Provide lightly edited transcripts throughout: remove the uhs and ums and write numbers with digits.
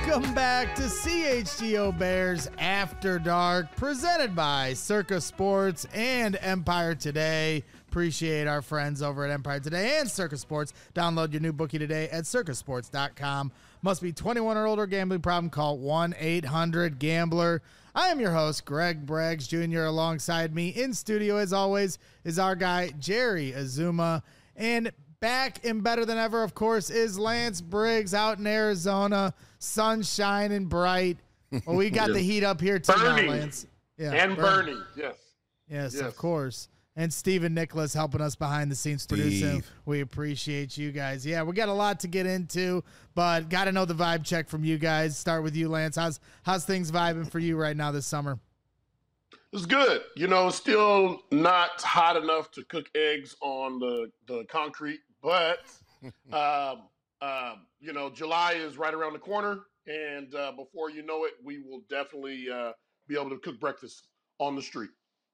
Welcome back to CHGO Bears After Dark, presented by Circa Sports and Empire Today. Appreciate our friends over at Empire Today and Circa Sports. Download your new bookie today at circasports.com. Must be 21 or older. Gambling problem? Call 1-800-GAMBLER. I am your host, Greg Braggs Jr. Alongside me in studio, as always, is our guy, Jerry Azuma. And back and better than ever, of course, is Lance Briggs out in Arizona. Sun shining bright. Well, we got the heat up here too now, Lance. Yeah, and Bernie, yes. Yes, of course. And Stephen Nicholas helping us behind the scenes producing. We appreciate you guys. Yeah, we got a lot to get into, but got to know the vibe check from you guys. Start with you, Lance. How's things vibing for you right now this summer? It's good. You know, still not hot enough to cook eggs on the concrete, but you know, July is right around the corner, and before you know it, we will definitely be able to cook breakfast on the street.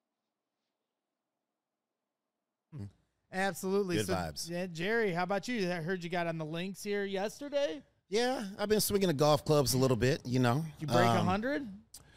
Absolutely. Good vibes. Yeah, Jerry, how about you? I heard you got on the links here yesterday. Yeah, I've been swinging the golf clubs a little bit, you know. Did you break 100?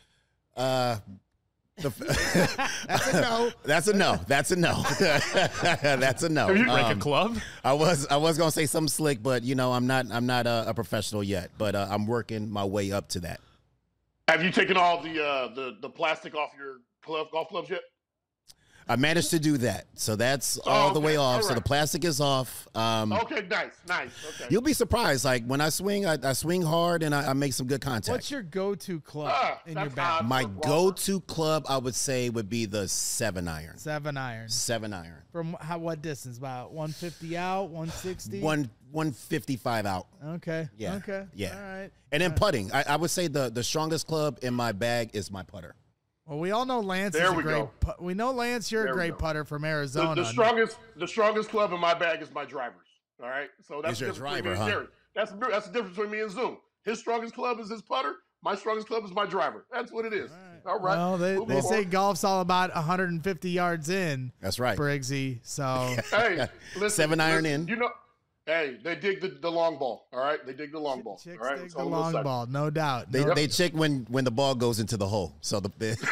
That's a no. That's a no. That's a no. That's a no. Have you break a club? I was gonna say something slick, but you know, I'm not a professional yet, but I'm working my way up to that. Have you taken all the plastic off your golf clubs yet? I managed to do that, so that's all the way off. Right. So the plastic is off. Okay, nice. Okay. You'll be surprised. Like when I swing, I swing hard and I make some good contact. What's your go-to club in your bag? My go-to club, I would say, would be the 7-iron. 7-iron. 7-iron. From what distance? About 150 out, 160? 155 out. Okay. Yeah. Okay. Yeah. All right. And then putting. I would say the strongest club in my bag is my putter. Well, we all know Lance is a great. We know Lance, you're a great putter from Arizona. The strongest club in my bag is my drivers. All right, so that's your driver, huh? That's the difference between me and Zoom. His strongest club is his putter. My strongest club is my driver. That's what it is. All right. Well, they say golf's all about 150 yards in. That's right, Briggsy. So hey, listen, 7-iron in. You know. Hey, they dig the long ball, all right? They dig the long ball, Chicks all right? dig the long ball, no doubt. They check when the ball goes into the hole. So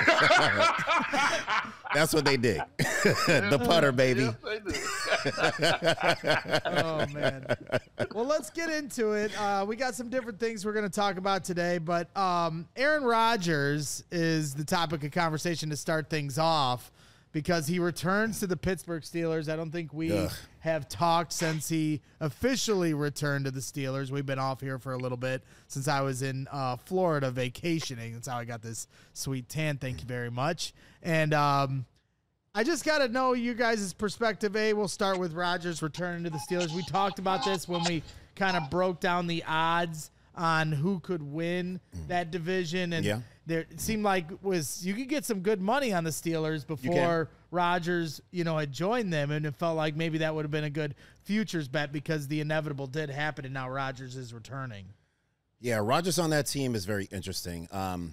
that's what they dig. The putter, baby. Yes, they do. Oh, man. Well, let's get into it. We got some different things we're going to talk about today, but Aaron Rodgers is the topic of conversation to start things off because he returns to the Pittsburgh Steelers. I don't think we have talked since he officially returned to the Steelers. We've been off here for a little bit since I was in Florida vacationing. That's how I got this sweet tan. Thank you very much. And I just got to know you guys' perspective. We'll start with Rodgers returning to the Steelers. We talked about this when we kind of broke down the odds on who could win that division. And it seemed like you could get some good money on the Steelers before Rodgers, had joined them. And it felt like maybe that would have been a good futures bet because the inevitable did happen and now Rodgers is returning. Yeah, Rodgers on that team is very interesting.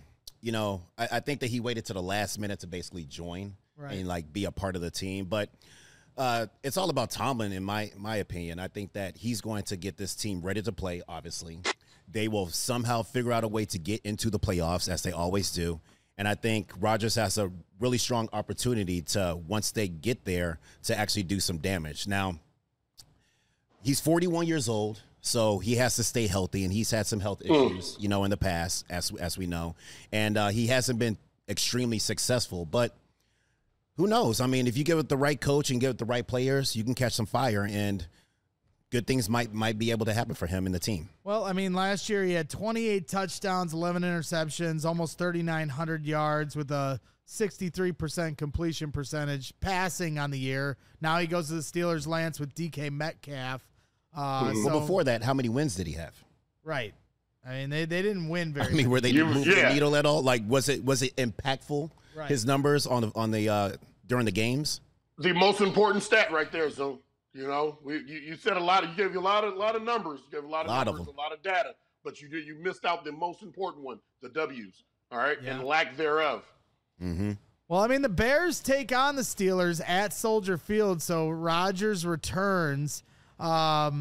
I think that he waited to the last minute to basically join and be a part of the team. But it's all about Tomlin, in my opinion. I think that he's going to get this team ready to play, obviously. They will somehow figure out a way to get into the playoffs, as they always do. And I think Rodgers has a really strong opportunity to, once they get there, to actually do some damage. Now, he's 41 years old, so he has to stay healthy, and he's had some health issues, in the past, as we know. And he hasn't been extremely successful, but who knows? I mean, if you give it the right coach and give it the right players, you can catch some fire, and good things might be able to happen for him and the team. Well, I mean, last year he had 28 touchdowns, 11 interceptions, almost 3,900 yards with a 63% completion percentage passing on the year. Now he goes to the Steelers, Lance, with DK Metcalf. Well, before that, how many wins did he have? Right. I mean, they didn't win very much. I mean, were they moving the needle at all? Like, was it impactful? Right. His numbers on the during the games. The most important stat right there, so you said you gave a lot of numbers, you gave a lot of numbers, a lot of data, but you missed out the most important one, the W's. All right, and lack thereof. Mm-hmm. Well, I mean, the Bears take on the Steelers at Soldier Field, so Rodgers returns.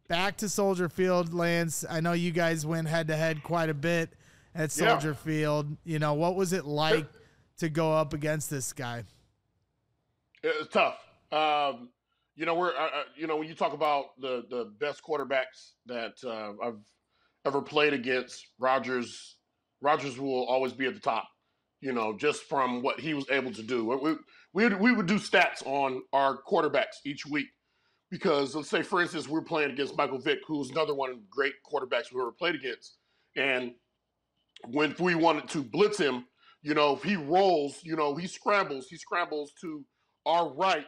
back to Soldier Field, Lance. I know you guys went head-to-head quite a bit at Soldier Field. You know, what was it like to go up against this guy? It was tough. You know, when you talk about the best quarterbacks that I've ever played against, Rodgers will always be at the top. You know, just from what he was able to do. We would do stats on our quarterbacks each week because, let's say, for instance, we're playing against Michael Vick, who's another one of the great quarterbacks we ever played against. And when we wanted to blitz him, you know, if he rolls, you know, he scrambles to our right,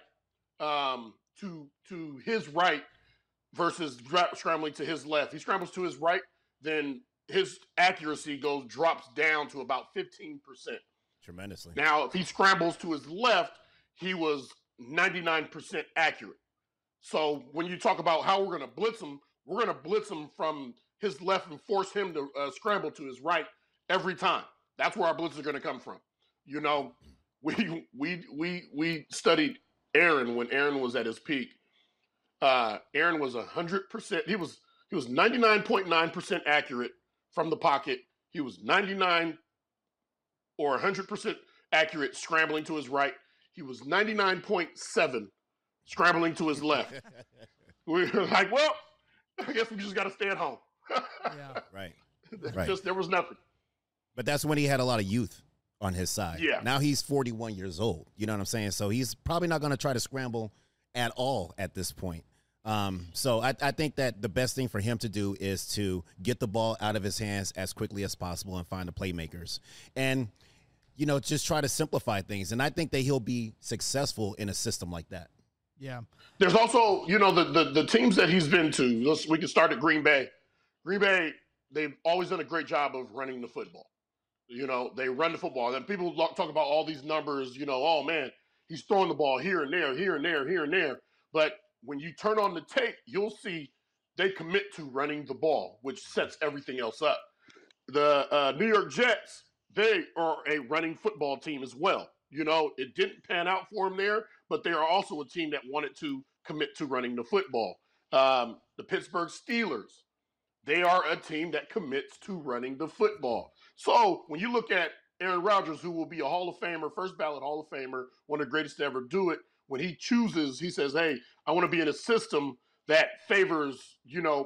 to his right versus scrambling to his left. He scrambles to his right, then his accuracy drops down to about 15%. Tremendously. Now, if he scrambles to his left, he was 99% accurate. So when you talk about how we're going to blitz him from his left and force him to scramble to his right every time. That's where our blitzes are going to come from. You know, we studied Aaron when Aaron was at his peak. Aaron was 100%. He was 99.9% accurate from the pocket. He was 99 or 100% accurate scrambling to his right. He was 99.7 scrambling to his left. We were like, well, I guess we just got to stay at home. Yeah. Right. There was nothing. But that's when he had a lot of youth on his side. Yeah. Now he's 41 years old. You know what I'm saying? So he's probably not going to try to scramble at all at this point. So I think that the best thing for him to do is to get the ball out of his hands as quickly as possible and find the playmakers. And, you know, just try to simplify things. And I think that he'll be successful in a system like that. Yeah. There's also, you know, the teams that he's been to. We can start at Green Bay. Green Bay, they've always done a great job of running the football. You know, they run the football. And people talk about all these numbers, you know, oh, man, he's throwing the ball here and there, here and there, here and there. But when you turn on the tape, you'll see they commit to running the ball, which sets everything else up. The New York Jets, they are a running football team as well. You know, it didn't pan out for them there, but they are also a team that wanted to commit to running the football. The Pittsburgh Steelers, they are a team that commits to running the football. So when you look at Aaron Rodgers, who will be a Hall of Famer, first ballot Hall of Famer, one of the greatest to ever do it, when he chooses, he says, hey, I want to be in a system that favors, you know,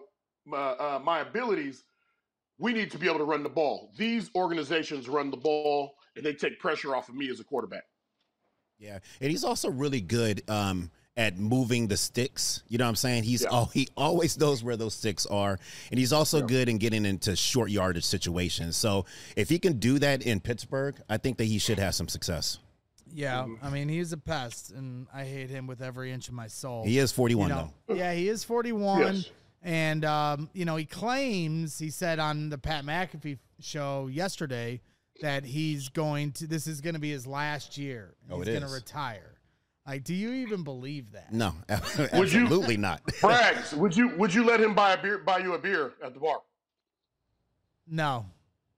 my abilities. We need to be able to run the ball. These organizations run the ball, and they take pressure off of me as a quarterback. Yeah, and he's also really good at moving the sticks. You know what I'm saying? He always knows where those sticks are, and he's also good in getting into short yardage situations. So if he can do that in Pittsburgh, I think that he should have some success. Yeah, I mean, he's a pest, and I hate him with every inch of my soul. He is 41, though. though. Yeah, he is 41. Yes. And, you know, he said on the Pat McAfee show yesterday that this is going to be his last year. He's going to retire. Like, do you even believe that? No, absolutely not. Braggs, would you let him buy you a beer at the bar? No.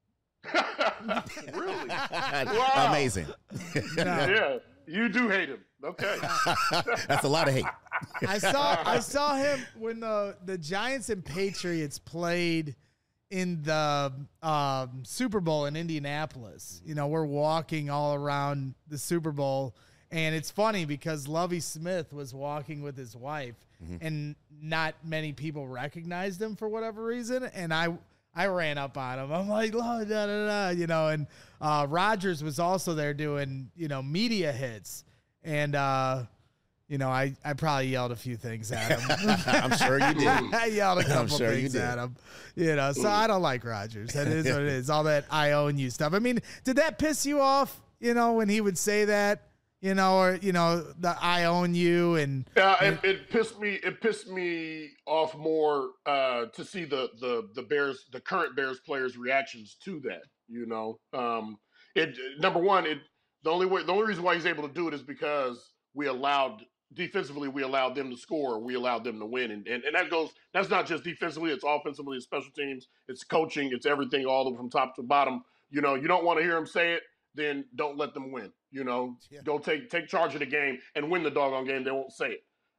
Really? Wow. Amazing. No. Yeah, you do hate him. Okay. That's a lot of hate. I saw him when the Giants and Patriots played in the Super Bowl in Indianapolis. You know, we're walking all around the Super Bowl, and it's funny because Lovie Smith was walking with his wife, and not many people recognized him for whatever reason, and I ran up on him. I'm like, oh, da, da, da, you know, and Rodgers was also there doing, you know, media hits. And, you know, I probably yelled a few things at him. I'm sure you did. I yelled a couple things at him. You know, so I don't like Rodgers. That is what it is. All that I own you stuff. I mean, did that piss you off, you know, when he would say that? You know, or, you know, the I own you and it pissed me off more to see the Bears, the current Bears players' reactions to that. You know, number one, the only reason why he's able to do it is because defensively we allowed them to score, we allowed them to win, and that's not just defensively, it's offensively, it's special teams, it's coaching, it's everything, all the way from top to bottom. You know, you don't want to hear him say it, then don't let them win. You know, go take charge of the game and win the doggone game. They won't say it.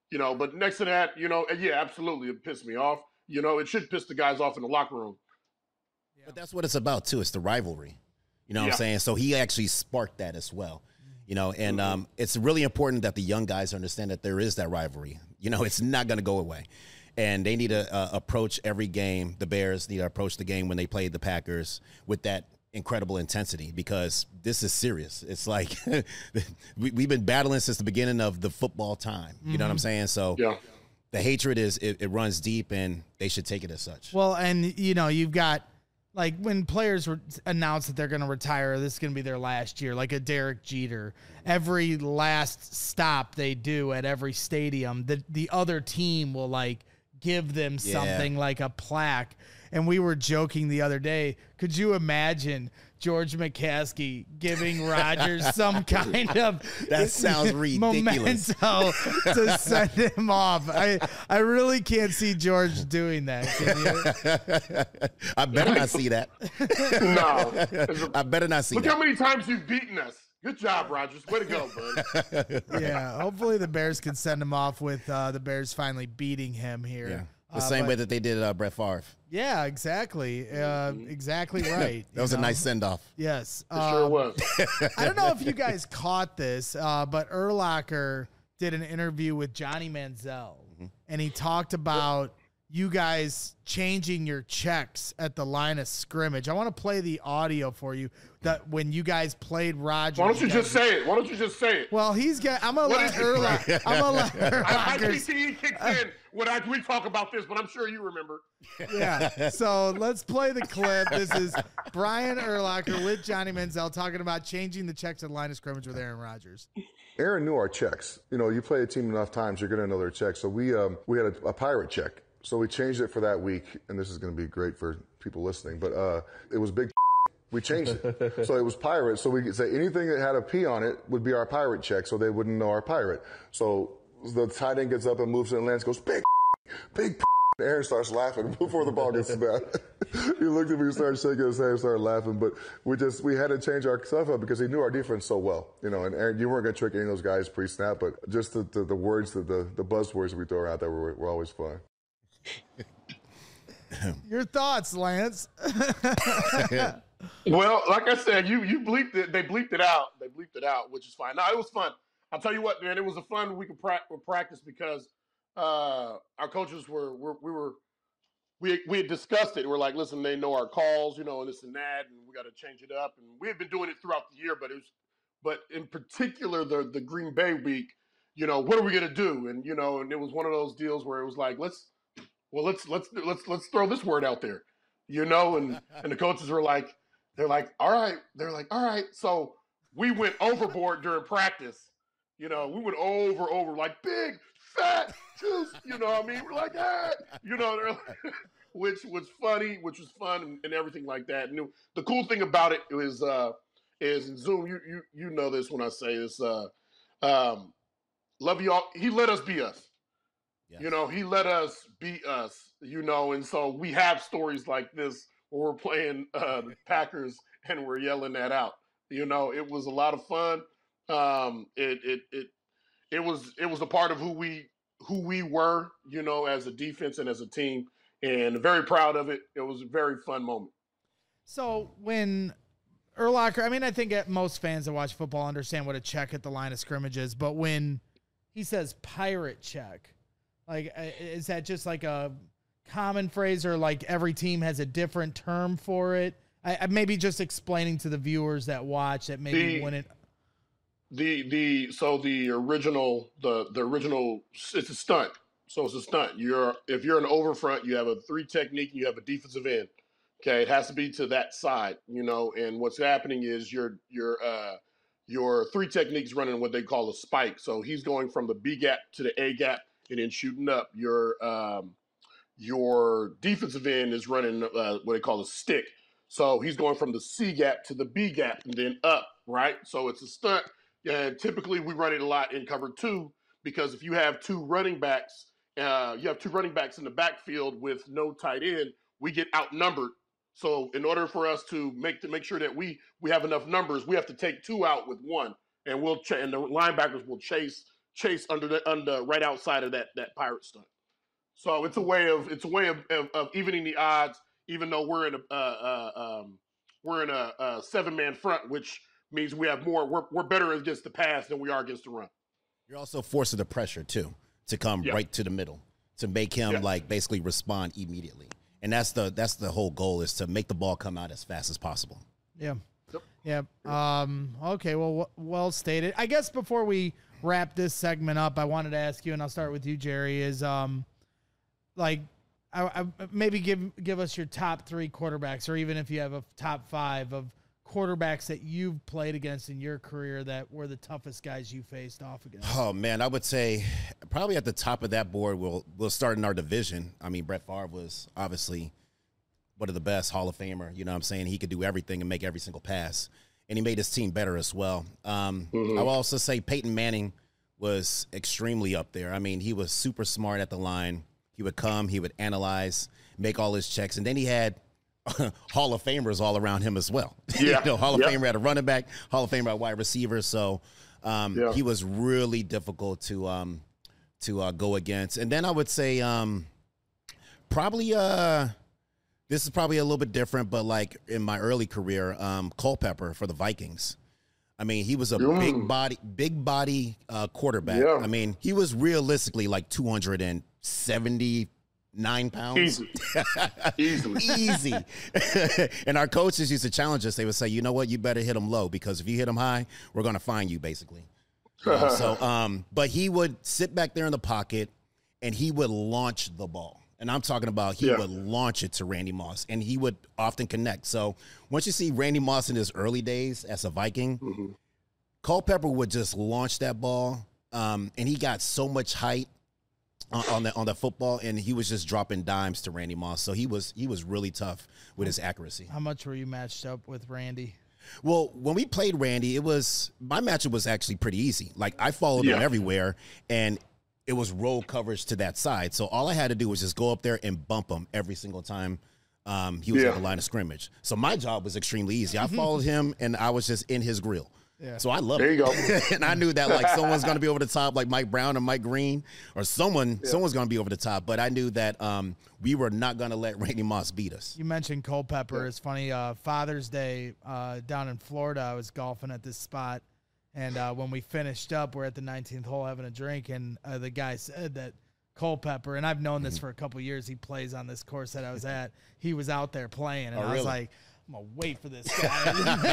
But next to that, yeah, absolutely, it pissed me off. It should piss the guys off in the locker room. But that's what it's about too. It's the rivalry. You know what I'm saying? So he actually sparked that as well. And it's really important that the young guys understand that there is that rivalry. It's not going to go away. And they need to approach every game. The Bears need to approach the game when they play the Packers with that incredible intensity, because this is serious. It's like we've been battling since the beginning of the football time. You know what I'm saying? So the hatred it runs deep, and they should take it as such. Well, and you've got, like, when players announce that they're going to retire, this is going to be their last year, like a Derek Jeter. Every last stop they do at every stadium, the other team will, like, give them something like a plaque. And we were joking the other day, could you imagine George McCaskey giving Rodgers some kind of that sounds ridiculous memento to send him off? I really can't see George doing that. Can you? I better not see that. No. I better not see Look that. how many times you've beaten us. Good job, Rodgers. Way to go, bud. Yeah, hopefully the Bears can send him off with the Bears finally beating him here. Yeah. The same way that they did Brett Favre. Yeah, exactly. Exactly right. That was a nice send-off. Yes. It sure was. I don't know if you guys caught this, but Urlacher did an interview with Johnny Manziel, and he talked about you guys changing your checks at the line of scrimmage. I want to play the audio for you that when you guys played Rodgers. Why don't you just say it? Well, I'm gonna let Urlacher. I think he kicks in when we talk about this, but I'm sure you remember. Yeah. So let's play the clip. This is Brian Urlacher with Johnny Manziel talking about changing the checks at the line of scrimmage with Aaron Rodgers. Aaron knew our checks. You play a team enough times, you're going to know their checks. So we had a pirate check. So we changed it for that week, and this is going to be great for people listening, but it was big. We changed it. So it was pirate. So we could say anything that had a P on it would be our pirate check, so they wouldn't know our pirate. So the tight end gets up and moves it and lands, goes, big. Aaron starts laughing before the ball gets snapped. He looked at me, started shaking his head, started laughing. But we had to change our stuff up because he knew our defense so well. And Aaron, you weren't going to trick any of those guys pre-snap, but just the words, the buzzwords we throw out there were always fun. Your thoughts, Lance? Well, like I said, you bleeped it. They bleeped it out. Which is fine. No, it was fun. I'll tell you what, man. It was a fun week of practice because our coaches we had discussed it. We're like, listen, they know our calls, and this and that, and we got to change it up. And we had been doing it throughout the year, but in particular the Green Bay week, what are we gonna do? And and it was one of those deals where it was like, let's throw this word out there, and the coaches were like, all right. So we went overboard during practice. We went over like big fat juice. We're like, they're like, which was funny, which was fun and everything like that. And the cool thing about it is in Zoom, you know this when I say this, love you all. He let us be us. Yes. He let us be us, and so we have stories like this where we're playing the Packers and we're yelling that out. It was a lot of fun. It was a part of who we were, as a defense and as a team, and very proud of it. It was a very fun moment. So when Urlacher, I think most fans that watch football understand what a check at the line of scrimmage is, but when he says pirate check, like, is that just like a common phrase, or like every team has a different term for it? I maybe just explaining to the viewers that watch that maybe when it. The original, it's a stunt. So it's a stunt. If you're an overfront, you have a 3 technique, and you have a defensive end. Okay, it has to be to that side, and what's happening is your 3 techniques running what they call a spike. So he's going from the B gap to the A gap and then shooting up. Your defensive end is running what they call a stick. So he's going from the C gap to the B gap and then up, right? So it's a stunt. And typically we run it a lot in cover 2 because if you have 2 running backs, in the backfield with no tight end, we get outnumbered. So in order for us to make sure that we have enough numbers, we have to take 2 out with 1, and and the linebackers will chase chase under right outside of that pirate stunt. So it's a way of evening the odds, even though we're in a 7-man front, which means we have more. We're better against the pass than we are against the run. You're also forcing the pressure too to come right to the middle to make him like basically respond immediately, and that's the whole goal, is to make the ball come out as fast as possible. Yeah. Yep. Okay. Well stated. I guess before we wrap this segment up, I wanted to ask you, and I'll start with you, Jerry, is like, I maybe give us your top 3 quarterbacks, or even if you have a top 5 of quarterbacks that you've played against in your career that were the toughest guys you faced off against. Oh man, I would say probably at the top of that board, we'll start in our division. I mean, Brett Favre was obviously one of the best, Hall of Famer. You know what I'm saying? He could do everything and make every single pass, and he made his team better as well. I will also say Peyton Manning was extremely up there. I mean, he was super smart at the line. He would come, he would analyze, make all his checks, and then he had Hall of Famers all around him as well. Yeah. Hall of Famer at a running back, Hall of Famer at wide receiver. So he was really difficult to go against. And then I would say probably this is probably a little bit different, but like in my early career, Culpepper for the Vikings. I mean, he was a big body quarterback. Yeah. I mean, he was realistically like 279 pounds. Easy. And our coaches used to challenge us. They would say, you know what, you better hit him low, because if you hit him high, we're going to fine you, basically. But he would sit back there in the pocket and he would launch the ball. And I'm talking about he would launch it to Randy Moss, and he would often connect. So once you see Randy Moss in his early days as a Viking, Culpepper would just launch that ball, and he got so much height on the football, and he was just dropping dimes to Randy Moss. So he was really tough with his accuracy. How much were you matched up with Randy? Well, when we played Randy, my matchup was actually pretty easy. Like, I followed him everywhere, and it was roll coverage to that side. So all I had to do was just go up there and bump him every single time he was at the line of scrimmage. So my job was extremely easy. I followed him, and I was just in his grill. Yeah. So I loved it. There you go. And I knew that, like, someone's going to be over the top, like Mike Brown or Mike Green, or someone's going to be over the top. But I knew that we were not going to let Randy Moss beat us. You mentioned Culpepper. It's funny. Father's Day down in Florida, I was golfing at this spot. And when we finished up, we're at the 19th hole having a drink, and the guy said that Culpepper, and I've known this for a couple years, he plays on this course that I was at. He was out there playing, and I was like, I'm going to wait for this guy.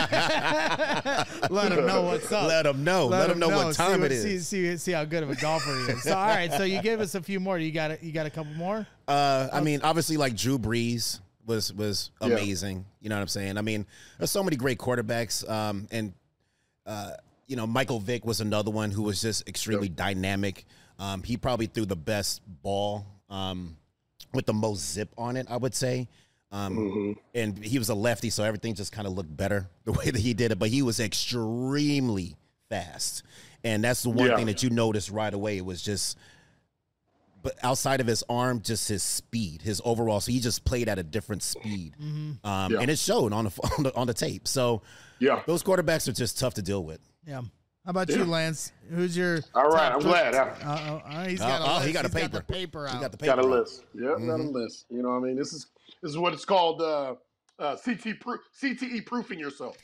Let him know what's up. Let him know what time it is. See how good of a golfer he is. So, all right, so you gave us a few more. You got a couple more? I mean, obviously, like Drew Brees was amazing. You know what I'm saying? I mean, there's so many great quarterbacks, and you know, Michael Vick was another one who was just extremely dynamic. He probably threw the best ball with the most zip on it, I would say. And he was a lefty, so everything just kind of looked better the way that he did it. But he was extremely fast. And that's the one thing that you noticed right away. It was just, but outside of his arm, just his speed, his overall. So he just played at a different speed. And it showed on the tape. So those quarterbacks are just tough to deal with. Yeah. How about you, Lance? Who's your all right? I'm glad. He's got a list. He got a paper. Got the paper out. He got the paper. Got a list. Yep, got a list. You know what I mean? This is what it's called. CTE proofing yourself.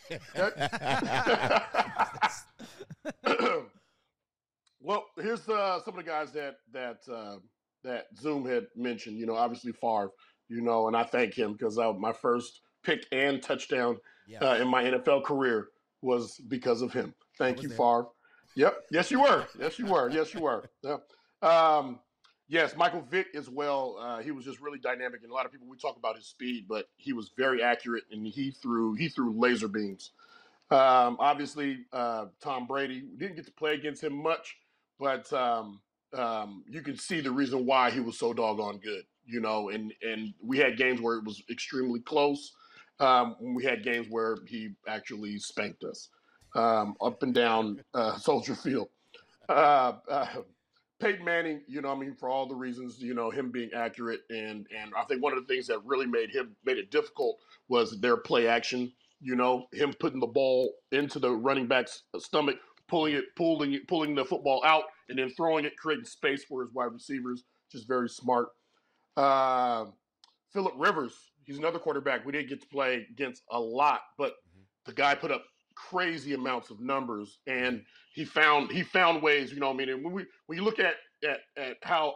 Well, here's some of the guys that Zoom had mentioned. You know, obviously Favre. You know, and I thank him because my first pick and touchdown in my NFL career was because of him. Thank you, Favre. Yep. Yes, you were. Yes, you were. Yeah. Yes, Michael Vick as well. He was just really dynamic, and a lot of people, we talk about his speed, but he was very accurate, and he threw laser beams. Obviously, Tom Brady, we didn't get to play against him much, but you can see the reason why he was so doggone good. You know, and we had games where it was extremely close. We had games where he actually spanked us up and down Soldier Field. Peyton Manning, you know, I mean, for all the reasons, you know, him being accurate, and I think one of the things that really made it difficult was their play action. You know, him putting the ball into the running back's stomach, pulling the football out and then throwing it, creating space for his wide receivers, just very smart. Phillip Rivers, he's another quarterback we didn't get to play against a lot, but the guy put up crazy amounts of numbers, and he found ways. You know, I mean, and when you look at how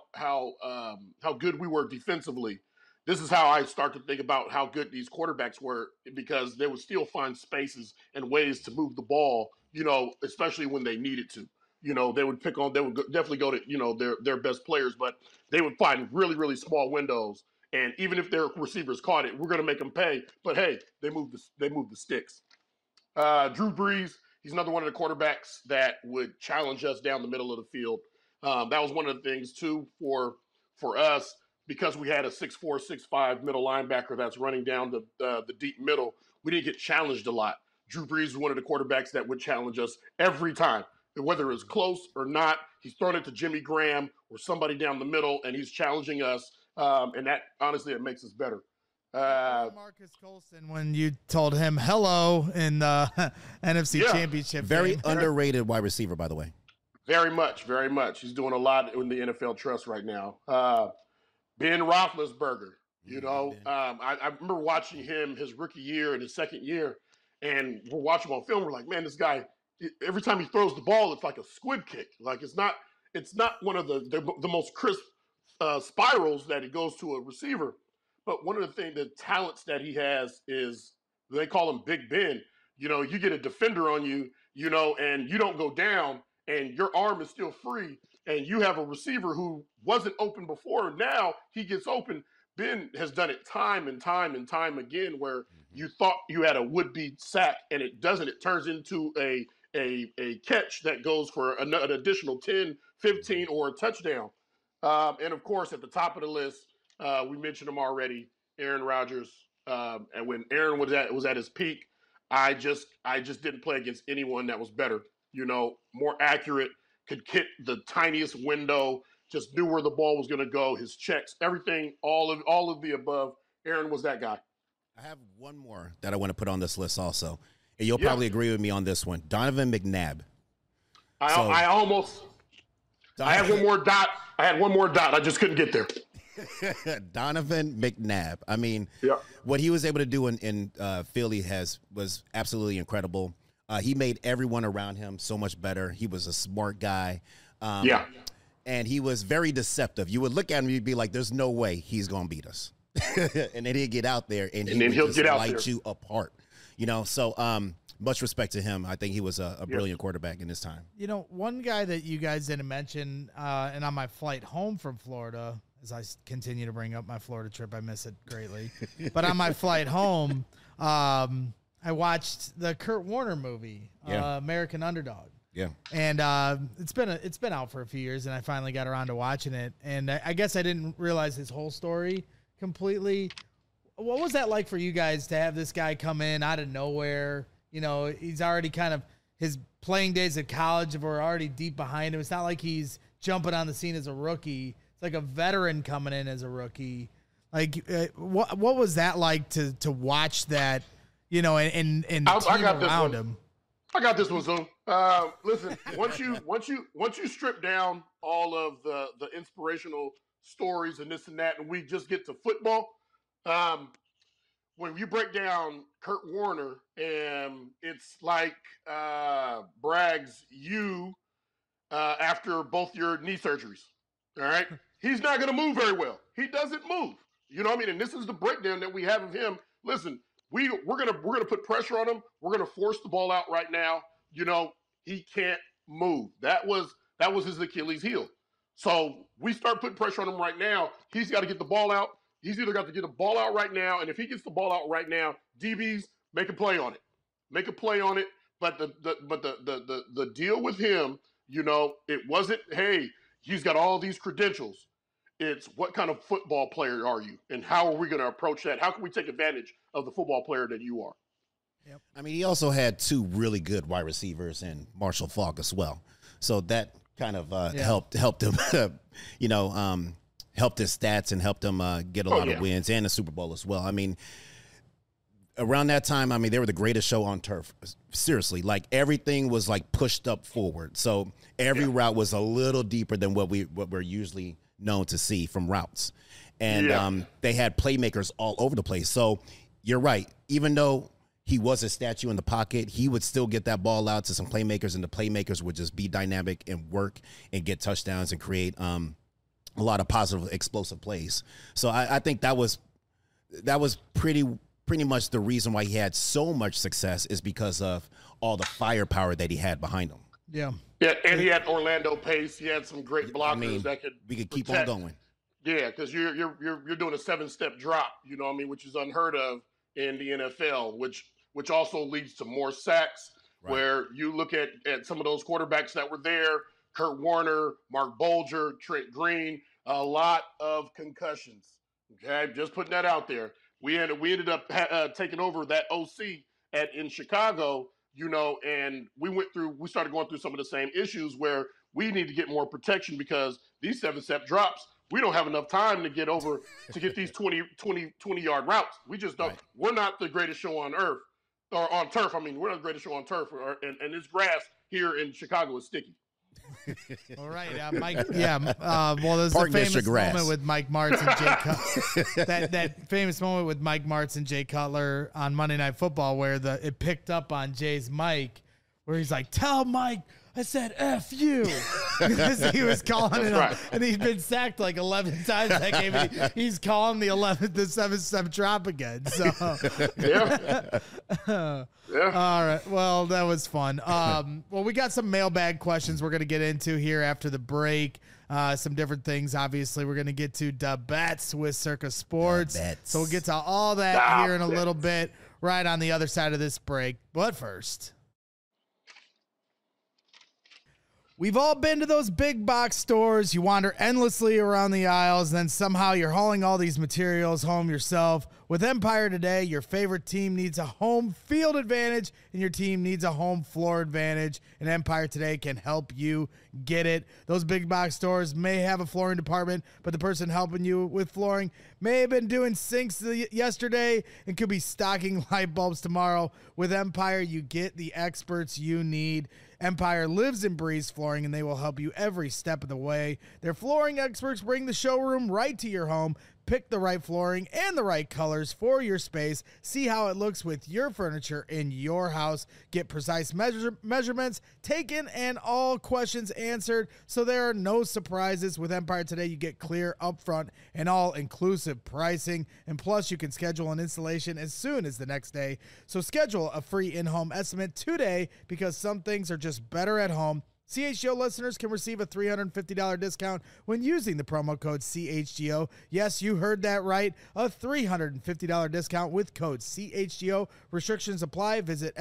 good we were defensively, this is how I start to think about how good these quarterbacks were, because they would still find spaces and ways to move the ball. You know, especially when they needed to. You know, they would definitely go to, you know, their best players, but they would find really, really small windows. And even if their receivers caught it, we're going to make them pay. But hey, they moved the sticks. Drew Brees, he's another one of the quarterbacks that would challenge us down the middle of the field. That was one of the things too for us, because we had a 6'4", 6'5" middle linebacker that's running down the deep middle. We didn't get challenged a lot. Drew Brees was one of the quarterbacks that would challenge us every time. Whether it was close or not, he's throwing it to Jimmy Graham or somebody down the middle, and he's challenging us. And that, honestly, it makes us better. Marcus Colston, when you told him hello in the NFC Championship Very game. underrated wide receiver, by the way. Very much, very much. He's doing a lot in the NFL Trust right now. Ben Roethlisberger, you know, I remember watching him his rookie year and his second year, and we're watching him on film. We're like, man, this guy, every time he throws the ball, it's like a squid kick. Like it's not one of the most crisp spirals that it goes to a receiver. But one of the talents that he has is, they call him Big Ben. You know, you get a defender on you, you know, and you don't go down, and your arm is still free, and you have a receiver who wasn't open before. Now he gets open. Ben has done it time and time and time again, where you thought you had a would-be sack, and it doesn't. It turns into a catch that goes for an additional 10, 15, or a touchdown. And of course, at the top of the list, we mentioned him already, Aaron Rodgers. And when Aaron was at his peak, I just didn't play against anyone that was better. You know, more accurate, could hit the tiniest window, just knew where the ball was going to go, his checks, everything, all of the above. Aaron was that guy. I have one more that I want to put on this list also. And you'll probably agree with me on this one. Donovan McNabb. I had one more dot. I just couldn't get there. Donovan McNabb. I mean, what he was able to do in Philly was absolutely incredible. He made everyone around him so much better. He was a smart guy. And he was very deceptive. You would look at him, you'd be like, there's no way he's going to beat us. And then he'd get out there, and he would just light you apart. You know, so much respect to him. I think he was a brilliant quarterback in his time. You know, one guy that you guys didn't mention, and on my flight home from Florida, as I continue to bring up my Florida trip, I miss it greatly. But on my flight home, I watched the Kurt Warner movie, American Underdog. Yeah. And it's been out for a few years, and I finally got around to watching it. And I guess I didn't realize his whole story completely. What was that like for you guys to have this guy come in out of nowhere? You know, he's already kind of, his playing days at college were already deep behind him. It's not like he's jumping on the scene as a rookie. It's like a veteran coming in as a rookie. Like, what was that like to watch that, you know, and the team around him? I got this one, Zoom. Listen, once you strip down all of the inspirational stories and this and that, and we just get to football, when you break down Kurt Warner, and it's like Braggs, after both your knee surgeries, all right? He's not going to move very well. He doesn't move. You know what I mean? And this is the breakdown that we have of him. Listen, we're gonna put pressure on him. We're gonna force the ball out right now. You know, he can't move. That was his Achilles heel. So we start putting pressure on him right now. He's got to get the ball out. He's either got to get the ball out right now, and if he gets the ball out right now, DBs make a play on it. Make a play on it. But the deal with him, you know, it wasn't, hey, he's got all these credentials. It's what kind of football player are you, and how are we going to approach that? How can we take advantage of the football player that you are? Yep. I mean, he also had two really good wide receivers in Marshall Faulk as well. So that kind of helped him, you know, helped his stats and helped him get a lot of wins and a Super Bowl as well. I mean, around that time, I mean, they were the greatest show on turf. Seriously, like everything was like pushed up forward. So every route was a little deeper than what we're usually known to see from routes. And they had playmakers all over the place. So you're right. Even though he was a statue in the pocket, he would still get that ball out to some playmakers, and the playmakers would just be dynamic and work and get touchdowns and create a lot of positive, explosive plays. So I think that was pretty much the reason why he had so much success, is because of all the firepower that he had behind him. Yeah. Yeah, and he had Orlando Pace. He had some great blockers we could keep on going. Yeah, because you're doing a 7-step drop, you know what I mean, which is unheard of in the NFL, which also leads to more sacks. Right. Where you look at some of those quarterbacks that were there, Kurt Warner, Mark Bolger, Trent Green, a lot of concussions. Okay, just putting that out there. We ended up taking over that OC in Chicago, you know, and we started going through some of the same issues where we need to get more protection, because these 7-step drops, we don't have enough time to get these 20-yard routes. We just don't. Right. We're not the greatest show on earth, or on turf. I mean, we're not the greatest show on turf, and this grass here in Chicago is sticky. All right, Mike. Yeah. Well, there's a famous moment with Mike Martz and Jay Cutler. that famous moment with Mike Martz and Jay Cutler on Monday Night Football, where it picked up on Jay's mic, where he's like, "Tell Mike I said F you," because he was calling it, right. And he'd been sacked like 11 times that game. And he's calling the 7-step drop again. So yeah. All right. Well, that was fun. Well, we got some mailbag questions we're going to get into here after the break. Some different things. Obviously, we're going to get to the bets with Circa Sports. So we'll get to all that here in a little bit, right on the other side of this break. But first, we've all been to those big box stores. You wander endlessly around the aisles, and then somehow you're hauling all these materials home yourself. With Empire Today, your favorite team needs a home field advantage, and your team needs a home floor advantage, and Empire Today can help you get it. Those big box stores may have a flooring department, but the person helping you with flooring may have been doing sinks yesterday and could be stocking light bulbs tomorrow. With Empire, you get the experts you need. Empire lives and breathes flooring, and they will help you every step of the way. Their flooring experts bring the showroom right to your home. Pick the right flooring and the right colors for your space. See how it looks with your furniture in your house. Get precise measurements taken and all questions answered, so there are no surprises. With Empire Today, you get clear, upfront, and all-inclusive pricing. And plus, you can schedule an installation as soon as the next day. So schedule a free in-home estimate today, because some things are just better at home. CHGO listeners can receive a $350 discount when using the promo code CHGO. Yes, you heard that right. A $350 discount with code CHGO. Restrictions apply. Visit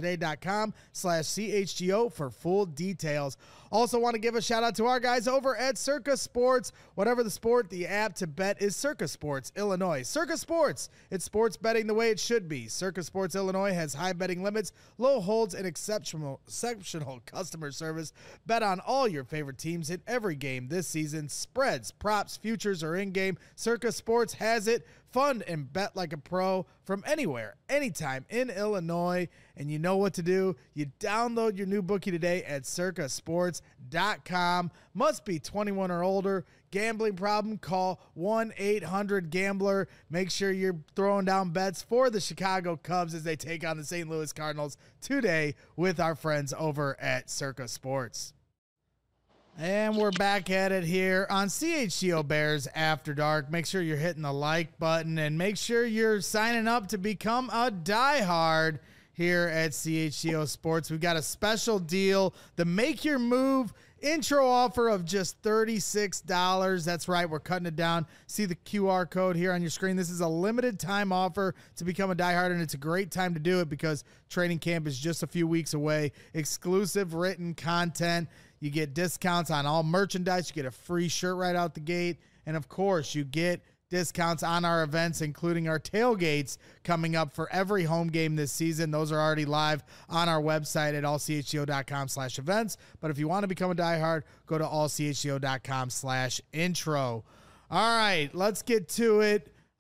empiretoday.com/CHGO for full details. Also want to give a shout out to our guys over at Circa Sports. Whatever the sport, the app to bet is Circa Sports, Illinois. Circa Sports, it's sports betting the way it should be. Circa Sports, Illinois has high betting limits, low holds, and exceptional customer service. Bet on all your favorite teams in every game this season. Spreads, props, futures, or in-game. Circa Sports has it. Fund and bet like a pro from anywhere, anytime in Illinois. And you know what to do. You download your new bookie today at circasports.com. Must be 21 or older. Gambling problem? Call 1-800-GAMBLER. Make sure you're throwing down bets for the Chicago Cubs as they take on the St. Louis Cardinals today with our friends over at Circa Sports. And we're back at it here on CHGO Bears After Dark. Make sure you're hitting the like button, and make sure you're signing up to become a diehard here at CHGO Sports. We've got a special deal, the Make Your Move intro offer of just $36. That's right, we're cutting it down. See the QR code here on your screen. This is a limited time offer to become a diehard, and it's a great time to do it because training camp is just a few weeks away. Exclusive written content. You get discounts on all merchandise. You get a free shirt right out the gate. And, of course, you get discounts on our events, including our tailgates coming up for every home game this season. Those are already live on our website at allchgo.com/events. But if you want to become a diehard, go to allchgo.com/intro. All right, let's get to it.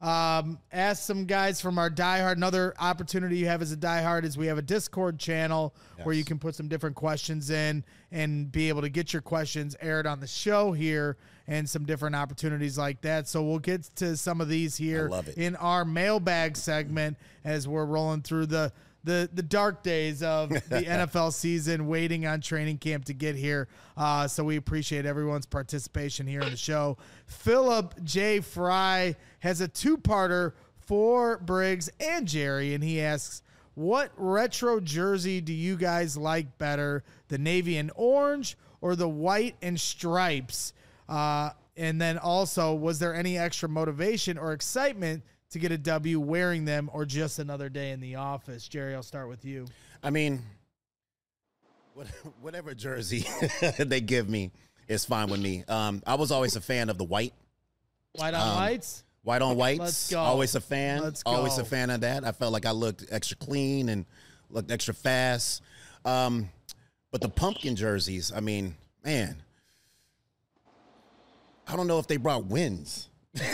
Ask some guys from our diehard. Another opportunity you have as a diehard is we have a Discord channel where you can put some different questions in and be able to get your questions aired on the show here and some different opportunities like that. So we'll get to some of these here in our mailbag segment as we're rolling through the dark days of the NFL season, waiting on training camp to get here. So we appreciate everyone's participation here in the show. Philip J. Fry has a two-parter for Briggs and Jerry, and he asks, what retro jersey do you guys like better, the navy and orange or the white and stripes? And then also, was there any extra motivation or excitement to get a W wearing them, or just another day in the office? Jerry, I'll start with you. I mean, whatever jersey they give me is fine with me. I was always a fan of the white. White on whites? White on whites. Let's go. Always a fan. Let's go. Always a fan of that. I felt like I looked extra clean and looked extra fast. But the pumpkin jerseys, I mean, man, I don't know if they brought wins.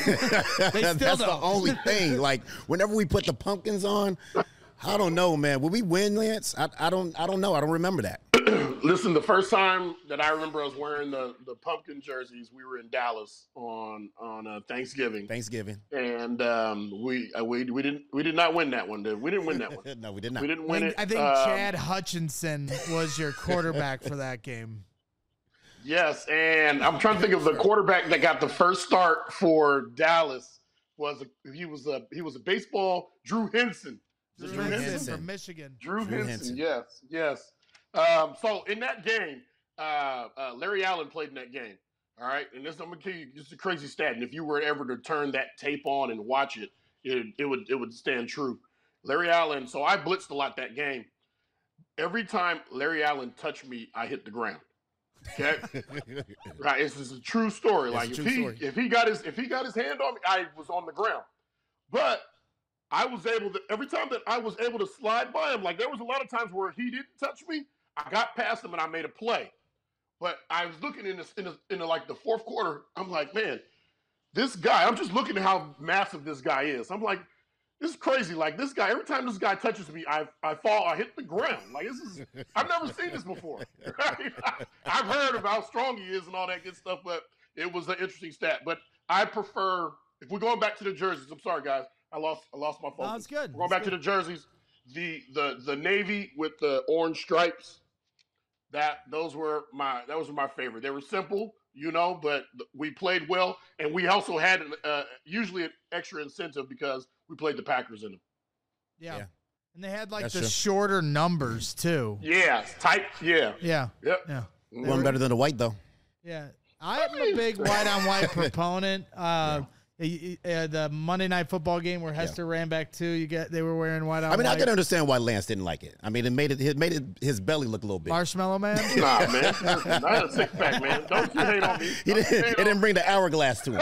That's the only thing. Like, whenever we put the pumpkins on, I don't know, man. Will we win, Lance? I don't know. I don't remember that. Listen, the first time that I remember us wearing the pumpkin jerseys, we were in Dallas on Thanksgiving. And we did not win that one. We didn't win that one. No, we did not. We didn't win it. I think Chad Hutchinson was your quarterback for that game. Yes, and I'm trying to think of the quarterback that got the first start for Dallas. He was a baseball Drew Henson. Drew Henson from Michigan. Drew Henson. Yes. So in that game, Larry Allen played in that game. All right, and I'm gonna tell you, just a crazy stat. And if you were ever to turn that tape on and watch it, it would stand true. Larry Allen. So I blitzed a lot that game. Every time Larry Allen touched me, I hit the ground. Okay, right. This is a true story. Like if he got his hand on me, I was on the ground. But I was able to, every time that I was able to slide by him, like there was a lot of times where he didn't touch me, I got past him and I made a play. But I was looking in like the fourth quarter, I'm like, man, this guy. I'm just looking at how massive this guy is. I'm like, this is crazy. Like this guy, every time this guy touches me, I fall, I hit the ground. Like I've never seen this before. Right? I've heard of how strong he is and all that good stuff, but it was an interesting stat. But I prefer, if we're going back to the jerseys, I'm sorry guys, I lost my focus. No, it's good. We're going back to the jerseys, the navy with the orange stripes. That was my favorite. They were simple, but we played well, and we also had usually an extra incentive because we played the Packers in them. Yeah. And they had shorter numbers too. Yeah, tight. Yeah. Yeah. Yep. Yeah. One better than the white though. Yeah, I'm a big white on white proponent. The Monday Night Football game where Hester ran back too. They were wearing white on white. I can understand why Lance didn't like it. I mean, it made his belly look a little big. Marshmallow Man. Nah, man, not a six pack, man. Don't you hate on me? It didn't bring the hourglass to him.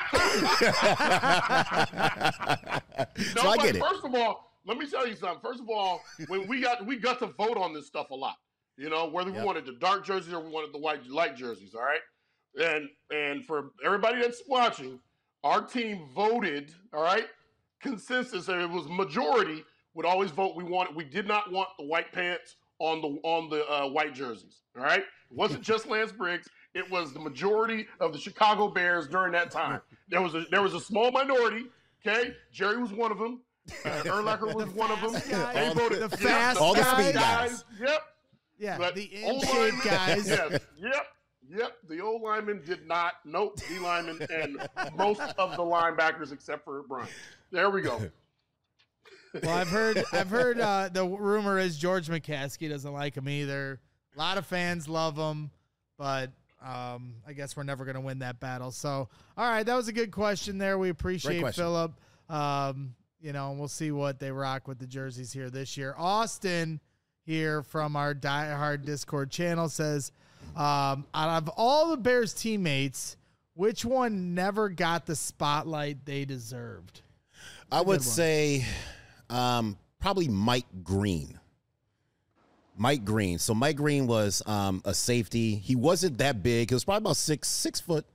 So I get it. First of all, let me tell you something. First of all, when we got to vote on this stuff a lot. Whether we wanted the dark jerseys or we wanted the light jerseys. All right, and for everybody that's watching. Our team voted, all right, consensus, and it was majority would always vote. We did not want the white pants on the white jerseys, all right? It wasn't just Lance Briggs. It was the majority of the Chicago Bears during that time. There was a small minority, okay? Jerry was one of them. Erlacher was one of them. They voted the fast all the speed guys. Yep. Yeah, but the in-shape guys. Yes. Yep, the old linemen did not. Nope, D linemen and most of the linebackers except for Brian. There we go. Well, I've heard the rumor is George McCaskey doesn't like him either. A lot of fans love him, but I guess we're never going to win that battle. So, all right, that was a good question there. We appreciate Philip. And we'll see what they rock with the jerseys here this year. Austin here from our Die Hard Discord channel says, out of all the Bears teammates, which one never got the spotlight they deserved? I would say probably Mike Green. Mike Green. So Mike Green was a safety. He wasn't that big. He was probably about 6 foot.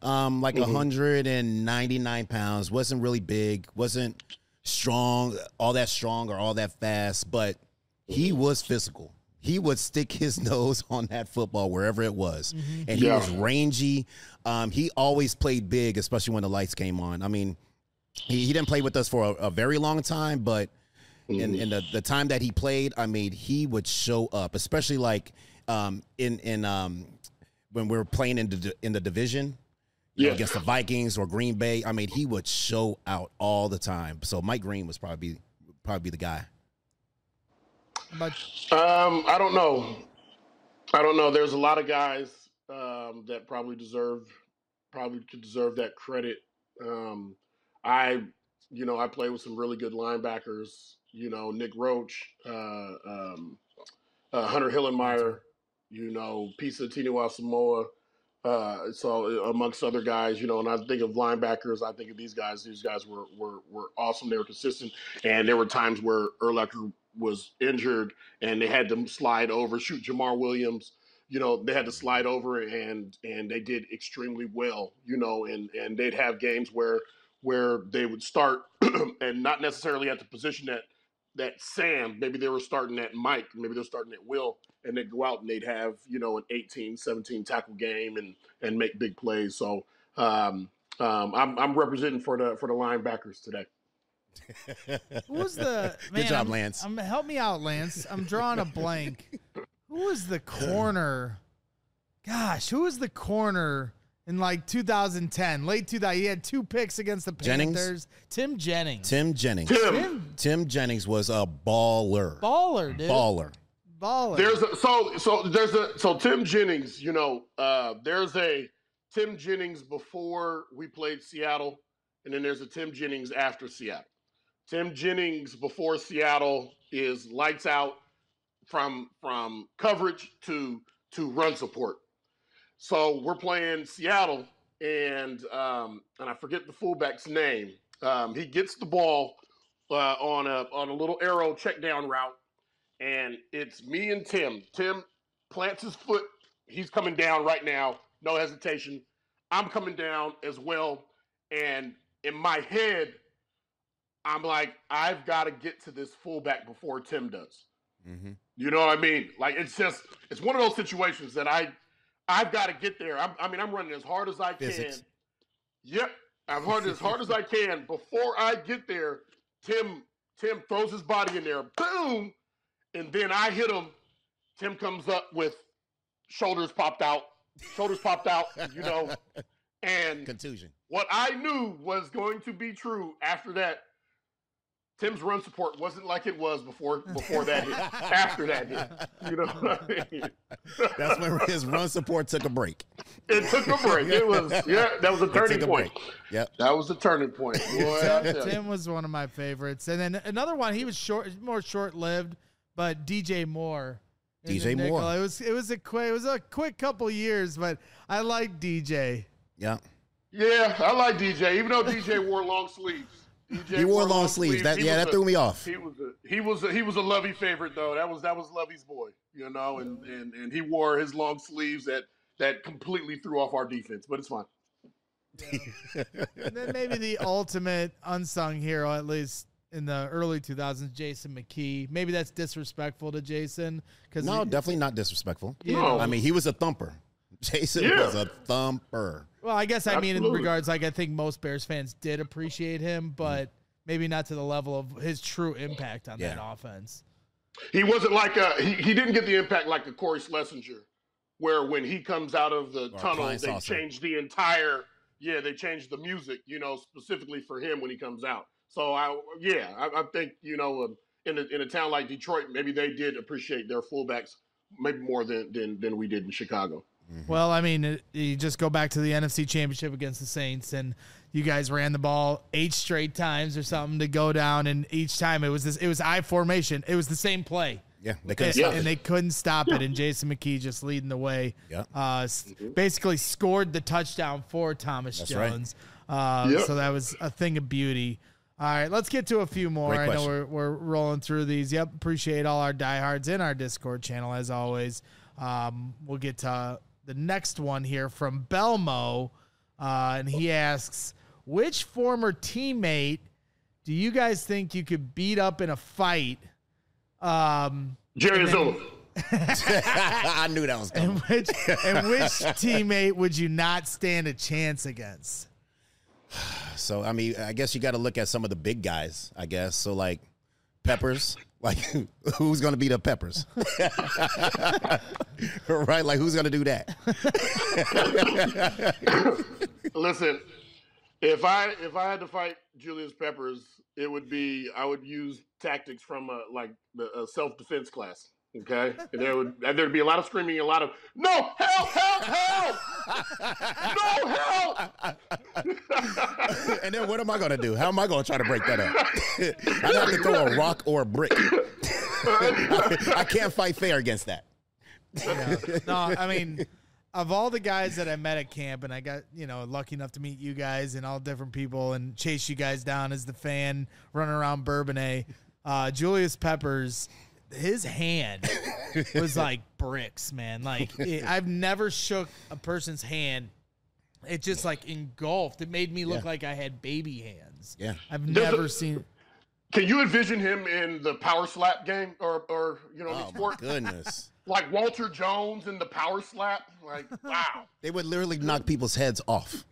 like 199 pounds. Wasn't really big. Wasn't strong, all that strong or all that fast, but he was physical. He would stick his nose on that football wherever it was. And he was rangy. He always played big, especially when the lights came on. I mean, he didn't play with us for a very long time, but in the time that he played, I mean, he would show up, especially like when we were playing in the division against the Vikings or Green Bay. I mean, he would show out all the time. So Mike Green was probably the guy. I don't know. There's a lot of guys that probably could deserve that credit. I played with some really good linebackers. Nick Roach, Hunter Hillenmeyer, Pisa Tiniwa Samoa. So amongst other guys, and I think of linebackers, I think of these guys. These guys were awesome. They were consistent, and there were times where Urlacher was injured and they had to slide over, shoot Jamar Williams. They had to slide over, and they did extremely well. And they'd have games where they would start and not necessarily at the position that Sam, maybe they were starting at Mike, maybe they're starting at Will, and they'd go out and they'd have, an 18, 17 tackle game and make big plays. So I'm representing for the linebackers today. Who was the man? Good job, Lance. Help me out, Lance. I'm drawing a blank. Who was the corner? Gosh, who was the corner in like 2010, late 2000? He had 2 picks against the Panthers. Tim Jennings. Tim Jennings was a baller. Baller, dude. Baller. So Tim Jennings, there's a Tim Jennings before we played Seattle, and then there's a Tim Jennings after Seattle. Tim Jennings before Seattle is lights out from coverage to run support. So we're playing Seattle, and I forget the fullback's name. He gets the ball on a little arrow check down route, and it's me and Tim. Tim plants his foot. He's coming down right now, no hesitation. I'm coming down as well, and in my head, I'm like, I've got to get to this fullback before Tim does. Mm-hmm. You know what I mean? Like, it's one of those situations that I've got to get there. I'm running as hard as I can. Yep. I'm running as hard as I can. Before I get there, Tim throws his body in there. Boom. And then I hit him. Tim comes up with shoulders popped out, and contusion. What I knew was going to be true after that, Tim's run support wasn't like it was before that hit. After that hit, you know what I mean? That's when his run support took a break. It took a break. That was a turning point. Yep, that was a turning point. Boy, Tim was one of my favorites, and then another one. He was more short-lived, but DJ Moore. DJ Moore. It was a quick couple years, but I like DJ. Yeah. Yeah, I like DJ, even though DJ wore long sleeves. He wore long sleeves. That threw me off. He was a Lovey favorite though. That was Lovey's boy, and he wore his long sleeves that completely threw off our defense, but it's fine. Yeah. And then maybe the ultimate unsung hero, at least in the early 2000s, Jason McKee. Maybe that's disrespectful to Jason. No, definitely not disrespectful. No. I mean, he was a thumper. Jason was a thumper. Well, I guess mean in regards, like I think most Bears fans did appreciate him, but maybe not to the level of his true impact on that offense. He wasn't like he didn't get the impact like a Corey Schlesinger, where when he comes out of the tunnel, they change the entire they changed the music, specifically for him when he comes out. So I think in a town like Detroit, maybe they did appreciate their fullbacks maybe more than we did in Chicago. Well, I mean, you just go back to the NFC Championship against the Saints, and you guys ran the ball 8 straight times or something to go down, and each time it was I formation. It was the same play. Yeah, they couldn't stop it. And they couldn't stop it, and Jason McKee just leading the way. Yeah. Basically scored the touchdown for Thomas Jones. Right. So that was a thing of beauty. All right, let's get to a few more. I know we're rolling through these. Yep, appreciate all our diehards in our Discord channel, as always. We'll get to the next one here from Belmo. and he asks, which former teammate do you guys think you could beat up in a fight? Jerry Azula. I knew that was coming. And which teammate would you not stand a chance against? So, I mean, I guess you got to look at some of the big guys, I guess. So, like, Peppers. Like, who's going to beat up Peppers? Right? Like, who's going to do that? Listen, if I had to fight Julius Peppers, it would be I would use tactics from a self-defense class. Okay, and there'd be a lot of screaming, a lot of no help, no help. And then what am I going to do? How am I going to try to break that up? I'd have to throw a rock or a brick. I can't fight fair against that. Yeah. No, I mean, of all the guys that I met at camp, and I got, lucky enough to meet you guys and all different people and chase you guys down as the fan running around Bourbonnais, Julius Peppers, his hand was like bricks, man. Like, I've never shook a person's hand. It just like engulfed. It made me look like I had baby hands. Yeah. I've never seen. Can you envision him in the power slap game or Oh, sport? my goodness. Like Walter Jones in the power slap? Like, wow. They would literally knock people's heads off.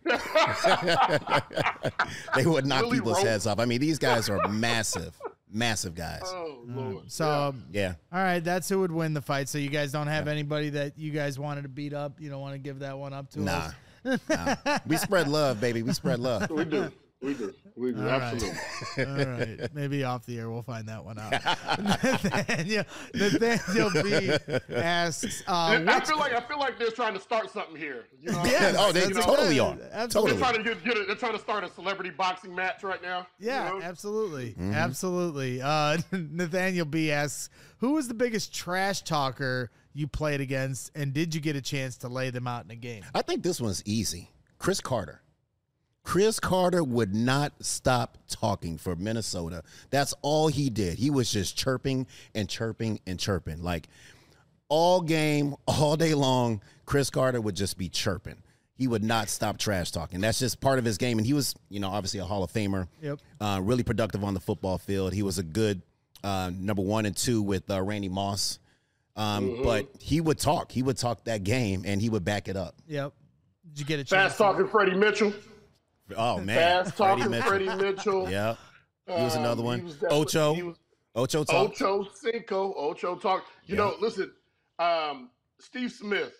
They would knock Really people's rope. heads off. I mean, these guys are massive guys. Oh, Lord. So, Yeah. all right, that's who would win the fight. So you guys don't have anybody that you guys wanted to beat up? You don't want to give that one up to us? Nah. We spread love, baby. We spread love. We do. All Absolutely. Right. All right. Maybe off the air we'll find that one out. Nathaniel B asks, I feel like they're trying to start something here. You know? Yeah. Oh, they totally are. Absolutely. Totally. They're trying to start a celebrity boxing match right now. Yeah, you know? absolutely. Absolutely. Nathaniel B asks, who was the biggest trash talker you played against, and did you get a chance to lay them out in a game? I think this one's easy. Chris Carter. Chris Carter would not stop talking for Minnesota. That's all he did. He was just chirping and chirping and chirping. Like, all game, all day long, Chris Carter would just be chirping. He would not stop trash talking. That's just part of his game. And he was, obviously a Hall of Famer. Yep. Really productive on the football field. He was a good number 1 and 2 with Randy Moss. But he would talk. He would talk that game, and he would back it up. Yep. Did you get a chance? Fast talking Freddie Mitchell. Oh, man. Fast talking Freddie Mitchell. Yep. He was another one. He was Ocho. Ocho talk. Ocho Cinco. Ocho talk. You know, listen, Steve Smith.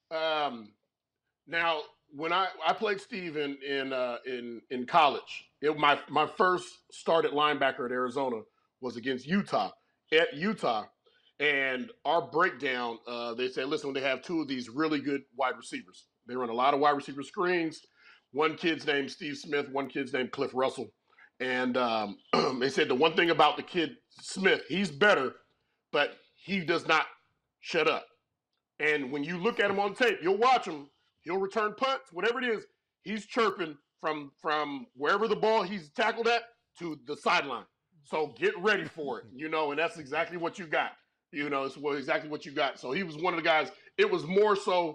Now, when I played Steve in college, my first start at linebacker at Arizona was against Utah. At Utah, and our breakdown, they said, listen, when they have two of these really good wide receivers, they run a lot of wide receiver screens. One kid's named Steve Smith, one kid's named Cliff Russell. And they said the one thing about the kid Smith, he's better, but he does not shut up. And when you look at him on tape, you'll watch him. He'll return punts, whatever it is. He's chirping from wherever the ball he's tackled at to the sideline. So get ready for it, and that's exactly what you got. It's exactly what you got. So he was one of the guys. It was more so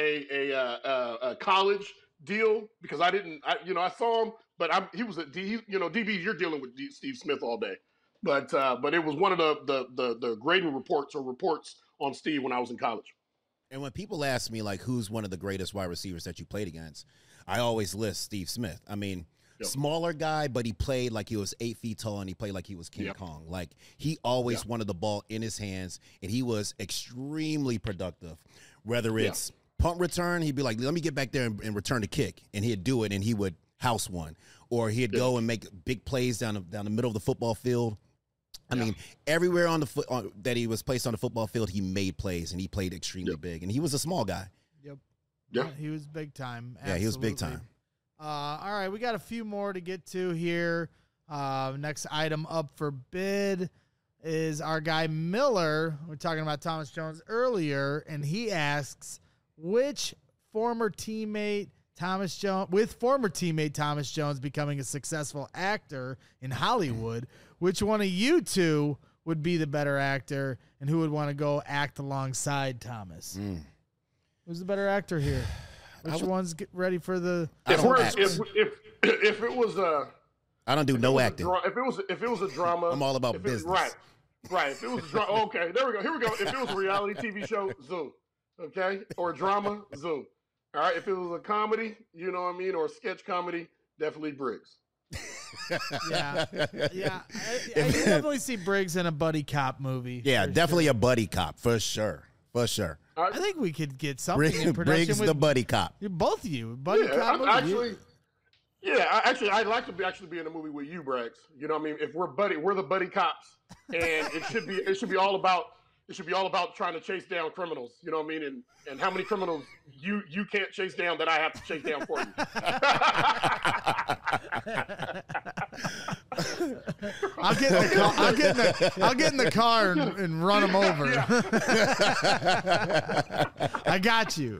a college deal because I saw him, but he was DB. You're dealing with Steve Smith all day, but it was one of the grading reports on Steve when I was in college. And when people ask me, like, who's one of the greatest wide receivers that you played against, I always list Steve Smith. I mean, smaller guy, but he played like he was 8 feet tall, and he played like he was King Kong. Like, he always wanted the ball in his hands, and he was extremely productive. Whether it's punt return, he'd be like, let me get back there and return the kick, and he'd do it, and he would house one. Or he'd go and make big plays down the middle of the football field. I mean, everywhere that he was placed on the football field, he made plays, and he played extremely big. And he was a small guy. Yep. Yeah. He was big time. Absolutely. Yeah, he was big time. All right, we got a few more to get to here. Next item up for bid is our guy Miller. We're talking about Thomas Jones earlier, and he asks, which former teammate Thomas Jones becoming a successful actor in Hollywood, which one of you two would be the better actor, and who would want to go act alongside Thomas? Who's the better actor here? Which one's ready for the? If it was I don't do no acting. If it was a drama, I'm all about business. Right. If it was a drama, okay, there we go. Here we go. If it was a reality TV show, Zoom. Okay, or a drama, Zoom. All right. If it was a comedy, you know what I mean, or a sketch comedy, definitely Briggs. Yeah. I definitely see Briggs in a buddy cop movie. Yeah, definitely a buddy cop for sure. For sure. I think we could get something in production Briggs with the buddy cop. Both of you, buddy cop movie. I'd like to be in a movie with you, Braggs. You know what I mean? If we're the buddy cops, and it should be all about trying to chase down criminals. You know what I mean? And how many criminals you can't chase down that I have to chase down for you. I'll get in the car and run them over. I got you.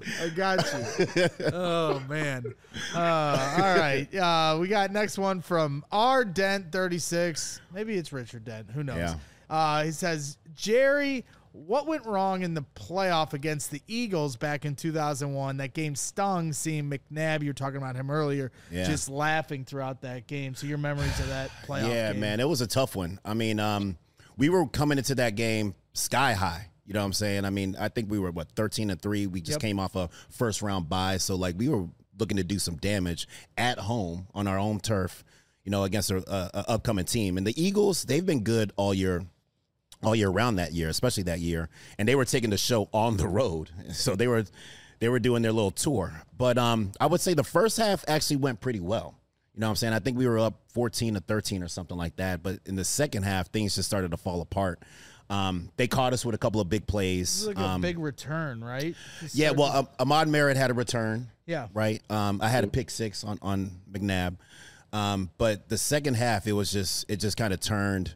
Oh man. All right. We got next one from R Dent 36. Maybe it's Richard Dent. Who knows? Yeah. He says, Jerry, what went wrong in the playoff against the Eagles back in 2001? That game stung, seeing McNabb, you were talking about him earlier, just laughing throughout that game. So your memories of that playoff game. Yeah, man, it was a tough one. I mean, we were coming into that game sky high. You know what I'm saying? I mean, I think we were, 13-3. We just came off a first-round bye. So, we were looking to do some damage at home on our own turf, against an upcoming team. And the Eagles, they've been good all year round that year, especially that year, and they were taking the show on the road. So they were doing their little tour. But I would say the first half actually went pretty well. You know what I'm saying? I think we were up 14-13 or something like that. But in the second half, things just started to fall apart. They caught us with a couple of big plays. It was like a big return, right? Yeah, well, Ahmad Merritt had a return. Yeah. Right? I had a pick six on McNabb. But the second half, it just kind of turned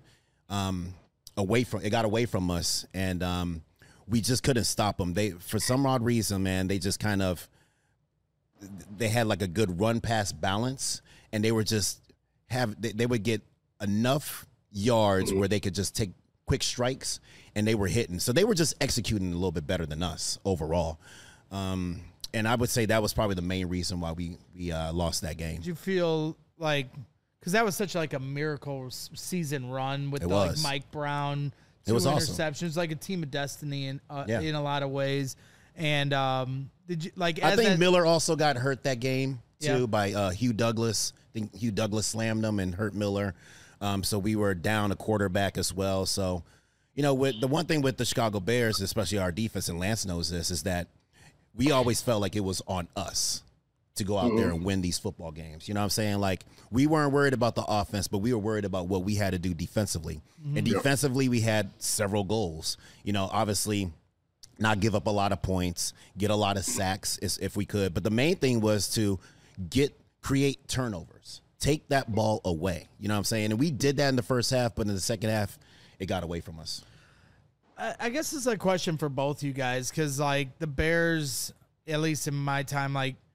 it got away from us, and we just couldn't stop them. For some odd reason, man, they just they had like a good run pass balance, and they would get enough yards where they could just take quick strikes, and they were hitting. So they were just executing a little bit better than us overall. And I would say that was probably the main reason why we lost that game. Did you feel like, because that was such like a miracle season run with Mike Brown, two interceptions, awesome. Like a team of destiny in a lot of ways. And did you I think Miller also got hurt that game too by Hugh Douglas. I think Hugh Douglas slammed him and hurt Miller. So we were down a quarterback as well. So, with the one thing with the Chicago Bears, especially our defense, and Lance knows this, is that we always felt like it was on us to go out there and win these football games. You know what I'm saying? Like, we weren't worried about the offense, but we were worried about what we had to do defensively. And defensively, we had several goals. Obviously, not give up a lot of points, get a lot of sacks if we could. But the main thing was to create turnovers, take that ball away. You know what I'm saying? And we did that in the first half, but in the second half, it got away from us. I guess it's a question for both you guys, because, the Bears, at least in my time,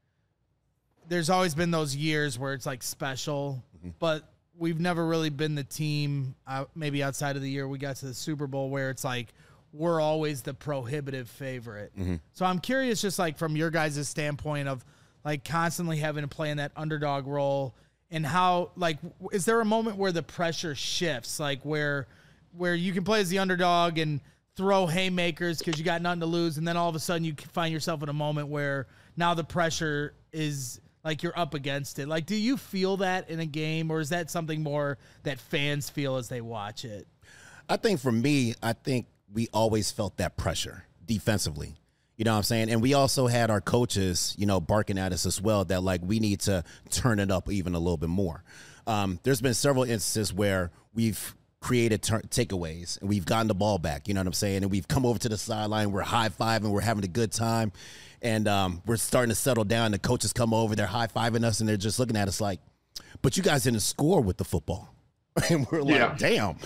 there's always been those years where it's special, but we've never really been the team, maybe outside of the year we got to the Super Bowl, where it's we're always the prohibitive favorite. So I'm curious, just from your guys' standpoint of constantly having to play in that underdog role, and how, is there a moment where the pressure shifts, where you can play as the underdog and throw haymakers because you got nothing to lose, and then all of a sudden you find yourself in a moment where now the pressure is you're up against it? Do you feel that in a game, or is that something more that fans feel as they watch it? I think for me, we always felt that pressure defensively. You know what I'm saying? And we also had our coaches, barking at us as well, that we need to turn it up even a little bit more. There's been several instances where we've created takeaways and we've gotten the ball back, you know what I'm saying? And we've come over to the sideline, we're high-fiving, we're having a good time. And we're starting to settle down. The coaches come over, they're high-fiving us, and they're just looking at us but you guys didn't score with the football. And we're damn.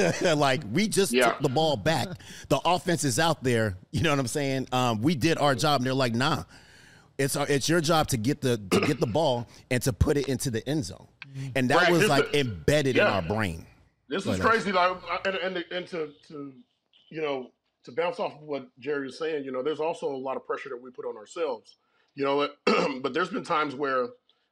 We just took the ball back. The offense is out there, you know what I'm saying? We did our job, and they're like, nah. It's your job to get the ball and to put it into the end zone. And that was embedded in our brain. This is crazy. And to bounce off of what Jerry was saying, there's also a lot of pressure that we put on ourselves. You know what? But there's been times where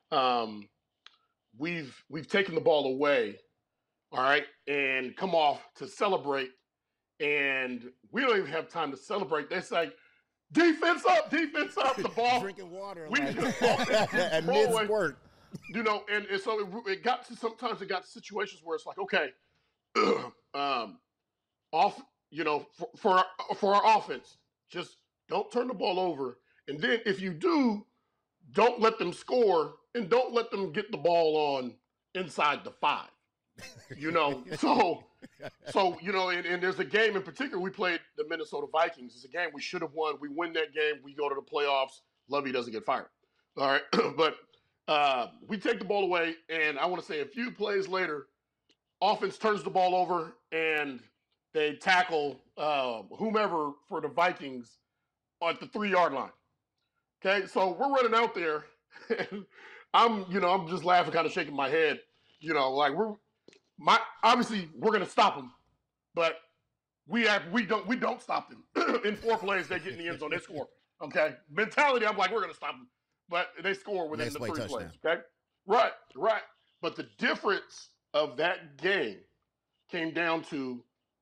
we've taken the ball away, all right, and come off to celebrate, and we don't even have time to celebrate. They're like, defense up, the ball. Drinking water. We Like, just at mid-squirt. You know, and so it got to situations where it's like, okay, off, you know, for our offense, just don't turn the ball over. And then if you do, don't let them score and don't let them get the ball on inside the 5. You know, so you know, and there's a game in particular. We played the Minnesota Vikings. It's a game we should have won. We win that game. We go to the playoffs. Lovey doesn't get fired. All right, but we take the ball away, and I want to say a few plays later, offense turns the ball over, and they tackle whomever for the Vikings at the 3-yard line. Okay, so we're running out there, and I'm just laughing, kind of shaking my head. You know, like obviously we're gonna stop them, but we don't stop them. In 4 plays, they get in the end zone, they score. Okay, mentality, I'm like, we're gonna stop them, but they score within the 3 plays. Okay, right. But the difference of that game came down to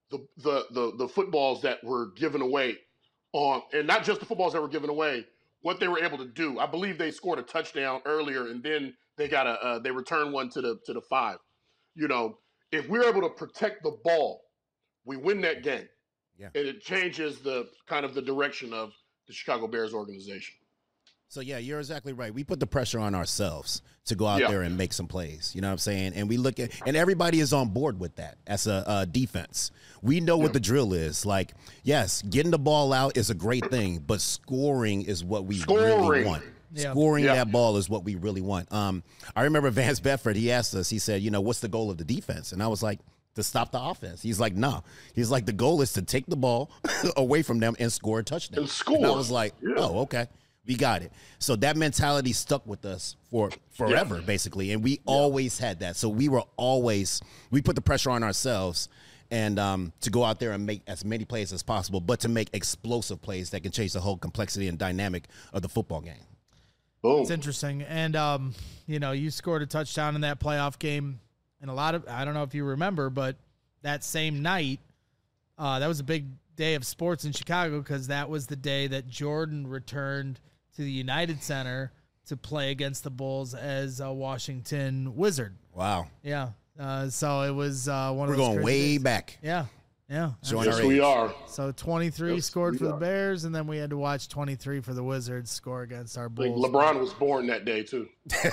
the footballs that were given away and not just the footballs that were given away, what they were able to do. I believe they scored a touchdown earlier, and then they got they returned one to the 5. You know, if we're able to protect the ball, we win that game. Yeah. And it changes the kind of the direction of the Chicago Bears organization. So, yeah, you're exactly right. We put the pressure on ourselves to go out there and make some plays. You know what I'm saying? And we look at – and everybody is on board with that as a defense. We know what the drill is. Like, yes, getting the ball out is a great thing, but scoring is what we really want. Yeah. Scoring that ball is what we really want. I remember Vance Bedford, he asked us, he said, you know, what's the goal of the defense? And I was like, to stop the offense. He's like, no. He's like, the goal is to take the ball away from them and score a touchdown. And score. And I was like, oh, okay. We got it. So that mentality stuck with us for forever, basically. And we always had that. So we put the pressure on ourselves and to go out there and make as many plays as possible, but to make explosive plays that can change the whole complexity and dynamic of the football game. Boom. It's interesting. And, you know, you scored a touchdown in that playoff game. And I don't know if you remember, but that same night, that was a big day of sports in Chicago because that was the day that Jordan returned to the United Center to play against the Bulls as a Washington Wizard. Wow. Yeah. So it was one of those. We're going way days. Back. Yeah. Yeah. Yes, we are. So 23 scored for the Bears, and then we had to watch 23 for the Wizards score against our Bulls. LeBron was born that day, too.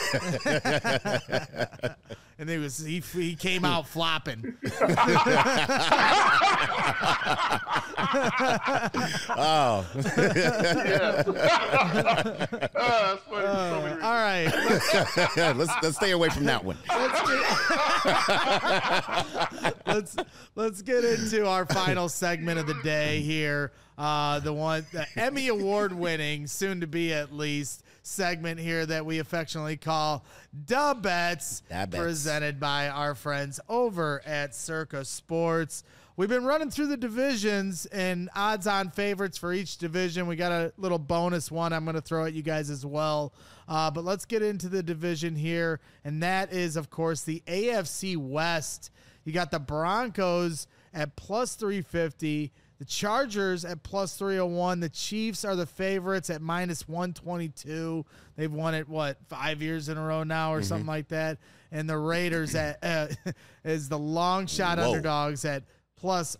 And he came out flopping. Oh. That's funny. All right. let's stay away from that one. Let's get into our final segment of the day here. The Emmy Award winning, soon to be at least, segment here that we affectionately call Da Bets, presented by our friends over at Circa Sports. We've been running through the divisions and odds-on favorites for each division. We got a little bonus one I'm going to throw at you guys as well. But let's get into the division here, and that is, of course, the AFC West. You got the Broncos at plus 350, the Chargers at plus 301. The Chiefs are the favorites at minus 122. They've won it, 5 years in a row now or something like that. And the Raiders is the long shot underdogs at plus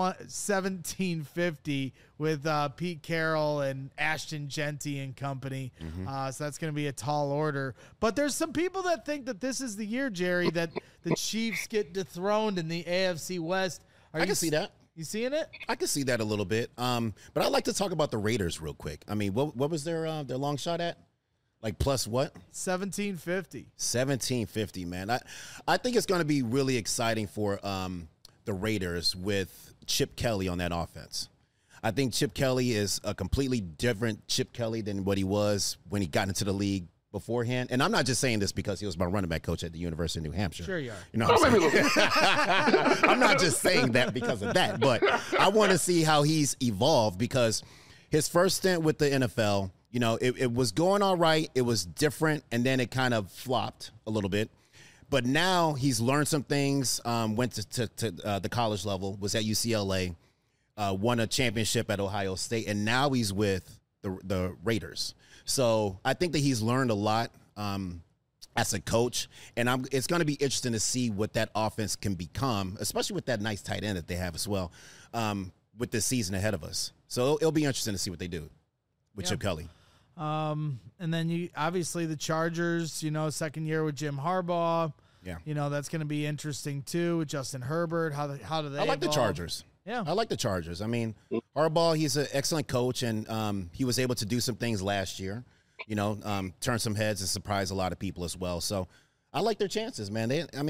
1750 with Pete Carroll and Ashton Genty and company. So that's going to be a tall order. But there's some people that think that this is the year, Jerry, that the Chiefs get dethroned in the AFC West. I can see that. You seeing it? I can see that a little bit. But I'd like to talk about the Raiders real quick. I mean, what was their long shot at? Like plus what? 1750. 1750, man. I think it's going to be really exciting for the Raiders with Chip Kelly on that offense. I think Chip Kelly is a completely different Chip Kelly than what he was when he got into the league beforehand. And I'm not just saying this because he was my running back coach at the University of New Hampshire. Sure you are. You know what I'm saying? I'm not just saying that because of that, but I want to see how he's evolved because his first stint with the NFL, You know, it was going all right. It was different, and then it kind of flopped a little bit. But now he's learned some things, went to the college level, was at UCLA, won a championship at Ohio State, and now he's with the Raiders. So I think that he's learned a lot as a coach, and it's going to be interesting to see what that offense can become, especially with that nice tight end that they have as well, with this season ahead of us. So it'll be interesting to see what they do with Chip Kelly. And then obviously the Chargers, you know, second year with Jim Harbaugh. Yeah. You know, that's going to be interesting too with Justin Herbert. How do they I like evolve? the Chargers. Yeah. I like the Chargers. I mean, Harbaugh, he's an excellent coach, and he was able to do some things last year, you know, turn some heads and surprise a lot of people as well. So I like their chances, man.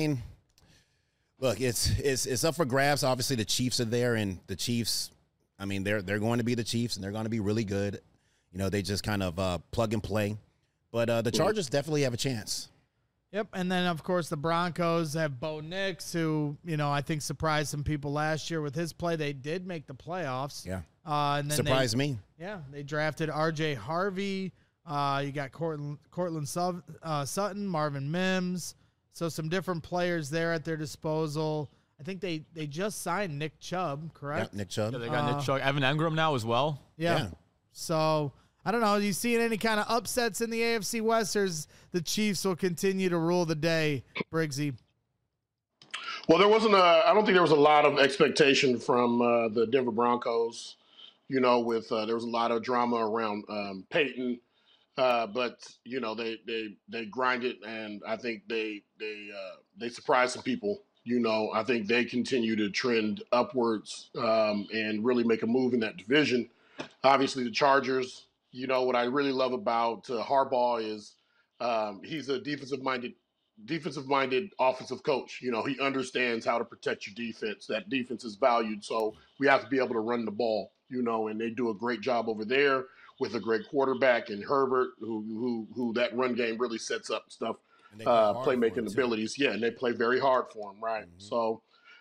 Look, it's up for grabs. Obviously, the Chiefs are there, and the Chiefs, I mean, they're going to be the Chiefs, and they're going to be really good. You know, they just kind of plug and play. But the Chargers definitely have a chance. Yep, and then, of course, the Broncos have Bo Nix, who, you know, I think surprised some people last year with his play. They did make the playoffs. Yeah. And then surprised me. Yeah, they drafted R.J. Harvey. You got Cortland Sutton, Marvin Mims. So some different players there at their disposal. I think they just signed Nick Chubb, correct? Yeah, Nick Chubb. Yeah, they got Nick Chubb. Evan Engram now as well. Yeah. So I don't know. Are you seeing any kind of upsets in the AFC West, or the Chiefs will continue to rule the day, Briggsy? Well, I don't think there was a lot of expectation from the Denver Broncos. You know, there was a lot of drama around Peyton, but you know they grinded, and I think they surprised some people. You know, I think they continue to trend upwards and really make a move in that division. Obviously, the Chargers. You know, what I really love about Harbaugh is he's a defensive-minded offensive coach. You know, he understands how to protect your defense. That defense is valued, so we have to be able to run the ball, you know, and they do a great job over there with a great quarterback and Herbert, who that run game really sets up stuff, playmaking abilities. Yeah, and they play very hard for him, right? Mm-hmm. So,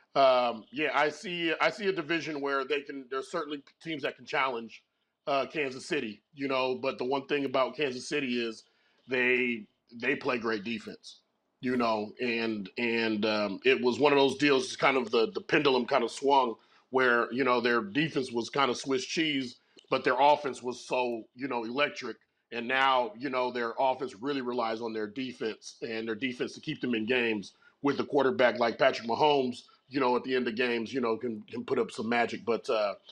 I see a division where there's certainly teams that can challenge Kansas City, you know, but the one thing about Kansas City is they play great defense, you know, and it was one of those deals, kind of the pendulum kind of swung where, you know, their defense was kind of Swiss cheese, but their offense was so, you know, electric. And now, you know, their offense really relies on their defense to keep them in games with a quarterback like Patrick Mahomes, you know, at the end of games, you know, can put up some magic. But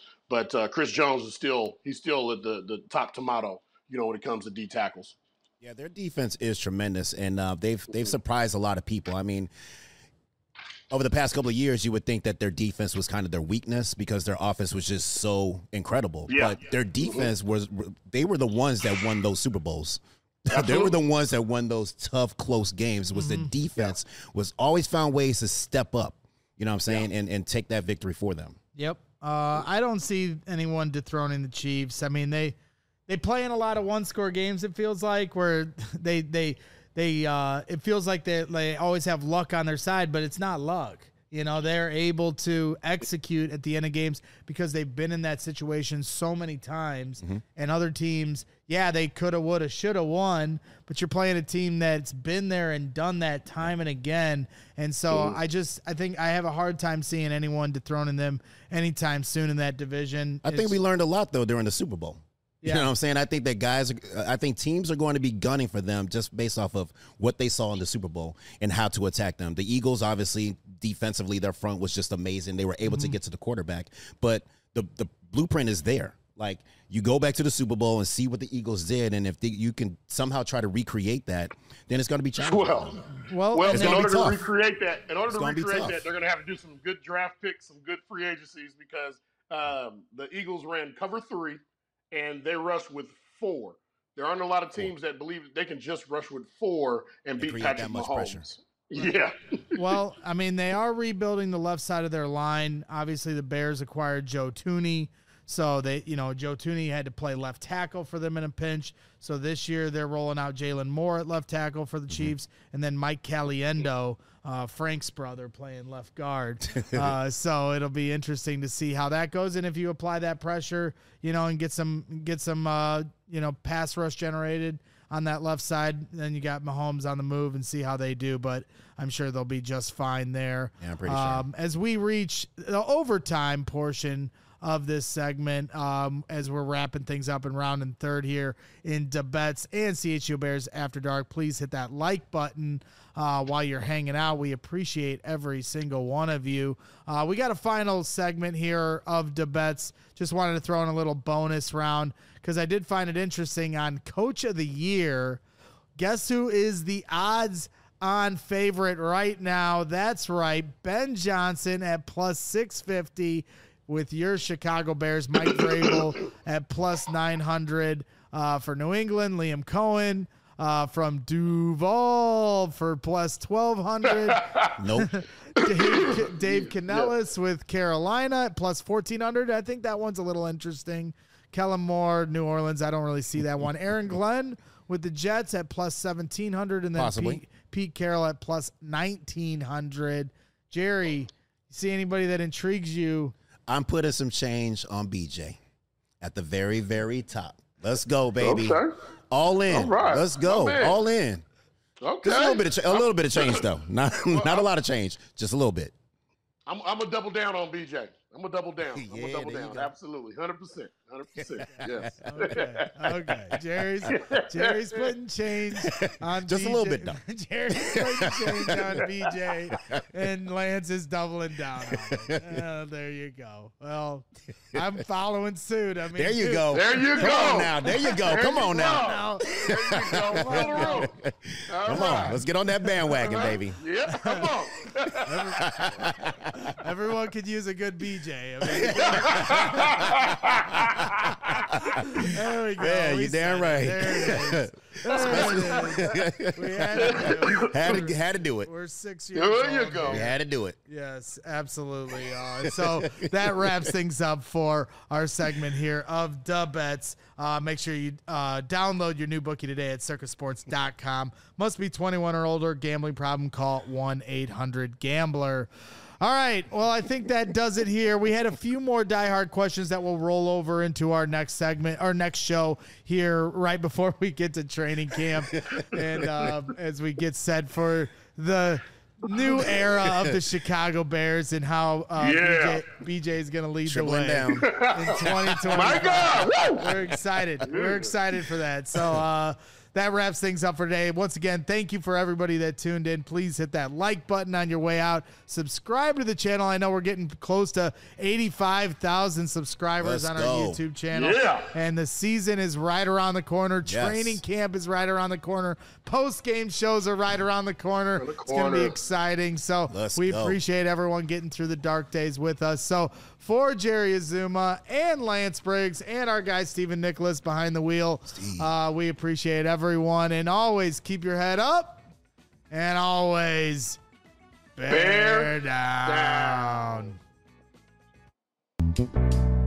Chris Jones is still at the top tomato, you know, when it comes to D tackles. Yeah, their defense is tremendous, and they've surprised a lot of people. I mean, over the past couple of years, you would think that their defense was kind of their weakness because their offense was just so incredible. Yeah. But their defense they were the ones that won those Super Bowls. They were the ones that won those tough, close games. It was the defense was always found ways to step up, you know what I'm saying, and take that victory for them. Yep. I don't see anyone dethroning the Chiefs. I mean, they play in a lot of one-score games, it feels like, where it feels like they always have luck on their side, but it's not luck. You know, they're able to execute at the end of games because they've been in that situation so many times. Mm-hmm. And other teams, they coulda, woulda, shoulda won, but you're playing a team that's been there and done that time and again. And so I think I have a hard time seeing anyone dethroning them anytime soon in that division. I think we learned a lot, though, during the Super Bowl. You know what I'm saying? I think teams are going to be gunning for them just based off of what they saw in the Super Bowl and how to attack them. The Eagles, obviously, defensively, their front was just amazing. They were able to get to the quarterback, but the blueprint is there. Like, you go back to the Super Bowl and see what the Eagles did, and if you can somehow try to recreate that, then it's going to be challenging. Well, in order to recreate that, they're going to have to do some good draft picks, some good free agencies, because the Eagles ran cover 3. And they rushed with 4. There aren't a lot of teams that believe they can just rush with 4 and beat Patrick Mahomes. Yeah. Well, I mean, they are rebuilding the left side of their line. Obviously, the Bears acquired Joe Thuney. So they, Joe Thuney had to play left tackle for them in a pinch. So this year they're rolling out Jalen Moore at left tackle for the Chiefs, and then Mike Caliendo, Frank's brother, playing left guard. So it'll be interesting to see how that goes. And if you apply that pressure, and get some pass rush generated on that left side, then you got Mahomes on the move and see how they do. But I'm sure they'll be just fine there. Yeah, I'm pretty sure. As we reach the overtime portion of this segment, as we're wrapping things up and rounding third here in DeBets and CHU Bears After Dark, please hit that like button while you're hanging out. We appreciate every single one of you. We got a final segment here of DeBets. Just wanted to throw in a little bonus round because I did find it interesting on Coach of the Year. Guess who is the odds-on favorite right now? That's right, Ben Johnson at plus 650. With your Chicago Bears, Mike Vrabel at plus 900 for New England. Liam Cohen from Duval for plus 1,200. Nope. Dave Canellis with Carolina at plus 1,400. I think that one's a little interesting. Kellen Moore, New Orleans. I don't really see that one. Aaron Glenn with the Jets at plus 1,700. And then Possibly. Pete Carroll at plus 1,900. Jerry, you see anybody that intrigues you? I'm putting some change on BJ at the very, very top. Let's go, baby. Okay. All in. All right. Let's go. My man. All in. Okay. Just a little bit of change, though. Not a lot of change. Just a little bit. I'm gonna double down on BJ. I'm gonna double down. I'm Yeah, gonna double there you down. go. Absolutely, 100%. 100%. Yes. Okay. Jerry's putting change on Just BJ. a little bit, though. Jerry's putting change on BJ, and Lance is doubling down on it. There you go. Well, I'm following suit. I mean, There you go. There you Come go. on now. There you go. Come on now. There you go. Follow the rule. All Come right. on. Let's get on that bandwagon, baby. Yeah, come on. Everyone could use a good BJ. There we go. Yeah, We you're damn said right. it. There it is. We had to do it. Had to do it. We're 6 years There you old go. We here. had to do it. Yes, absolutely. So that wraps things up for our segment here of DeBets. Make sure you download your new bookie today at circusports.com. Must be 21 or older. Gambling problem, call 1-800-GAMBLER. All right. Well, I think that does it here. We had a few more diehard questions that will roll over into our next segment, our next show here right before we get to training camp. And as we get set for the new era of the Chicago Bears and how BJ is going to lead Tripling the way down. in 2020. My God. Woo! We're excited. We're excited for that. So that wraps things up for today. Once again, thank you for everybody that tuned in. Please hit that like button on your way out. Subscribe to the channel. I know we're getting close to 85,000 subscribers on our YouTube channel. Yeah. And the season is right around the corner. Yes. Training camp is right around the corner. Post-game shows are right around the corner. It's going to be exciting. So Let's we go. appreciate everyone getting through the dark days with us. So for Jerry Azuma and Lance Briggs and our guy Stephen Nicholas behind the wheel, we appreciate everyone. And always keep your head up and always bear down.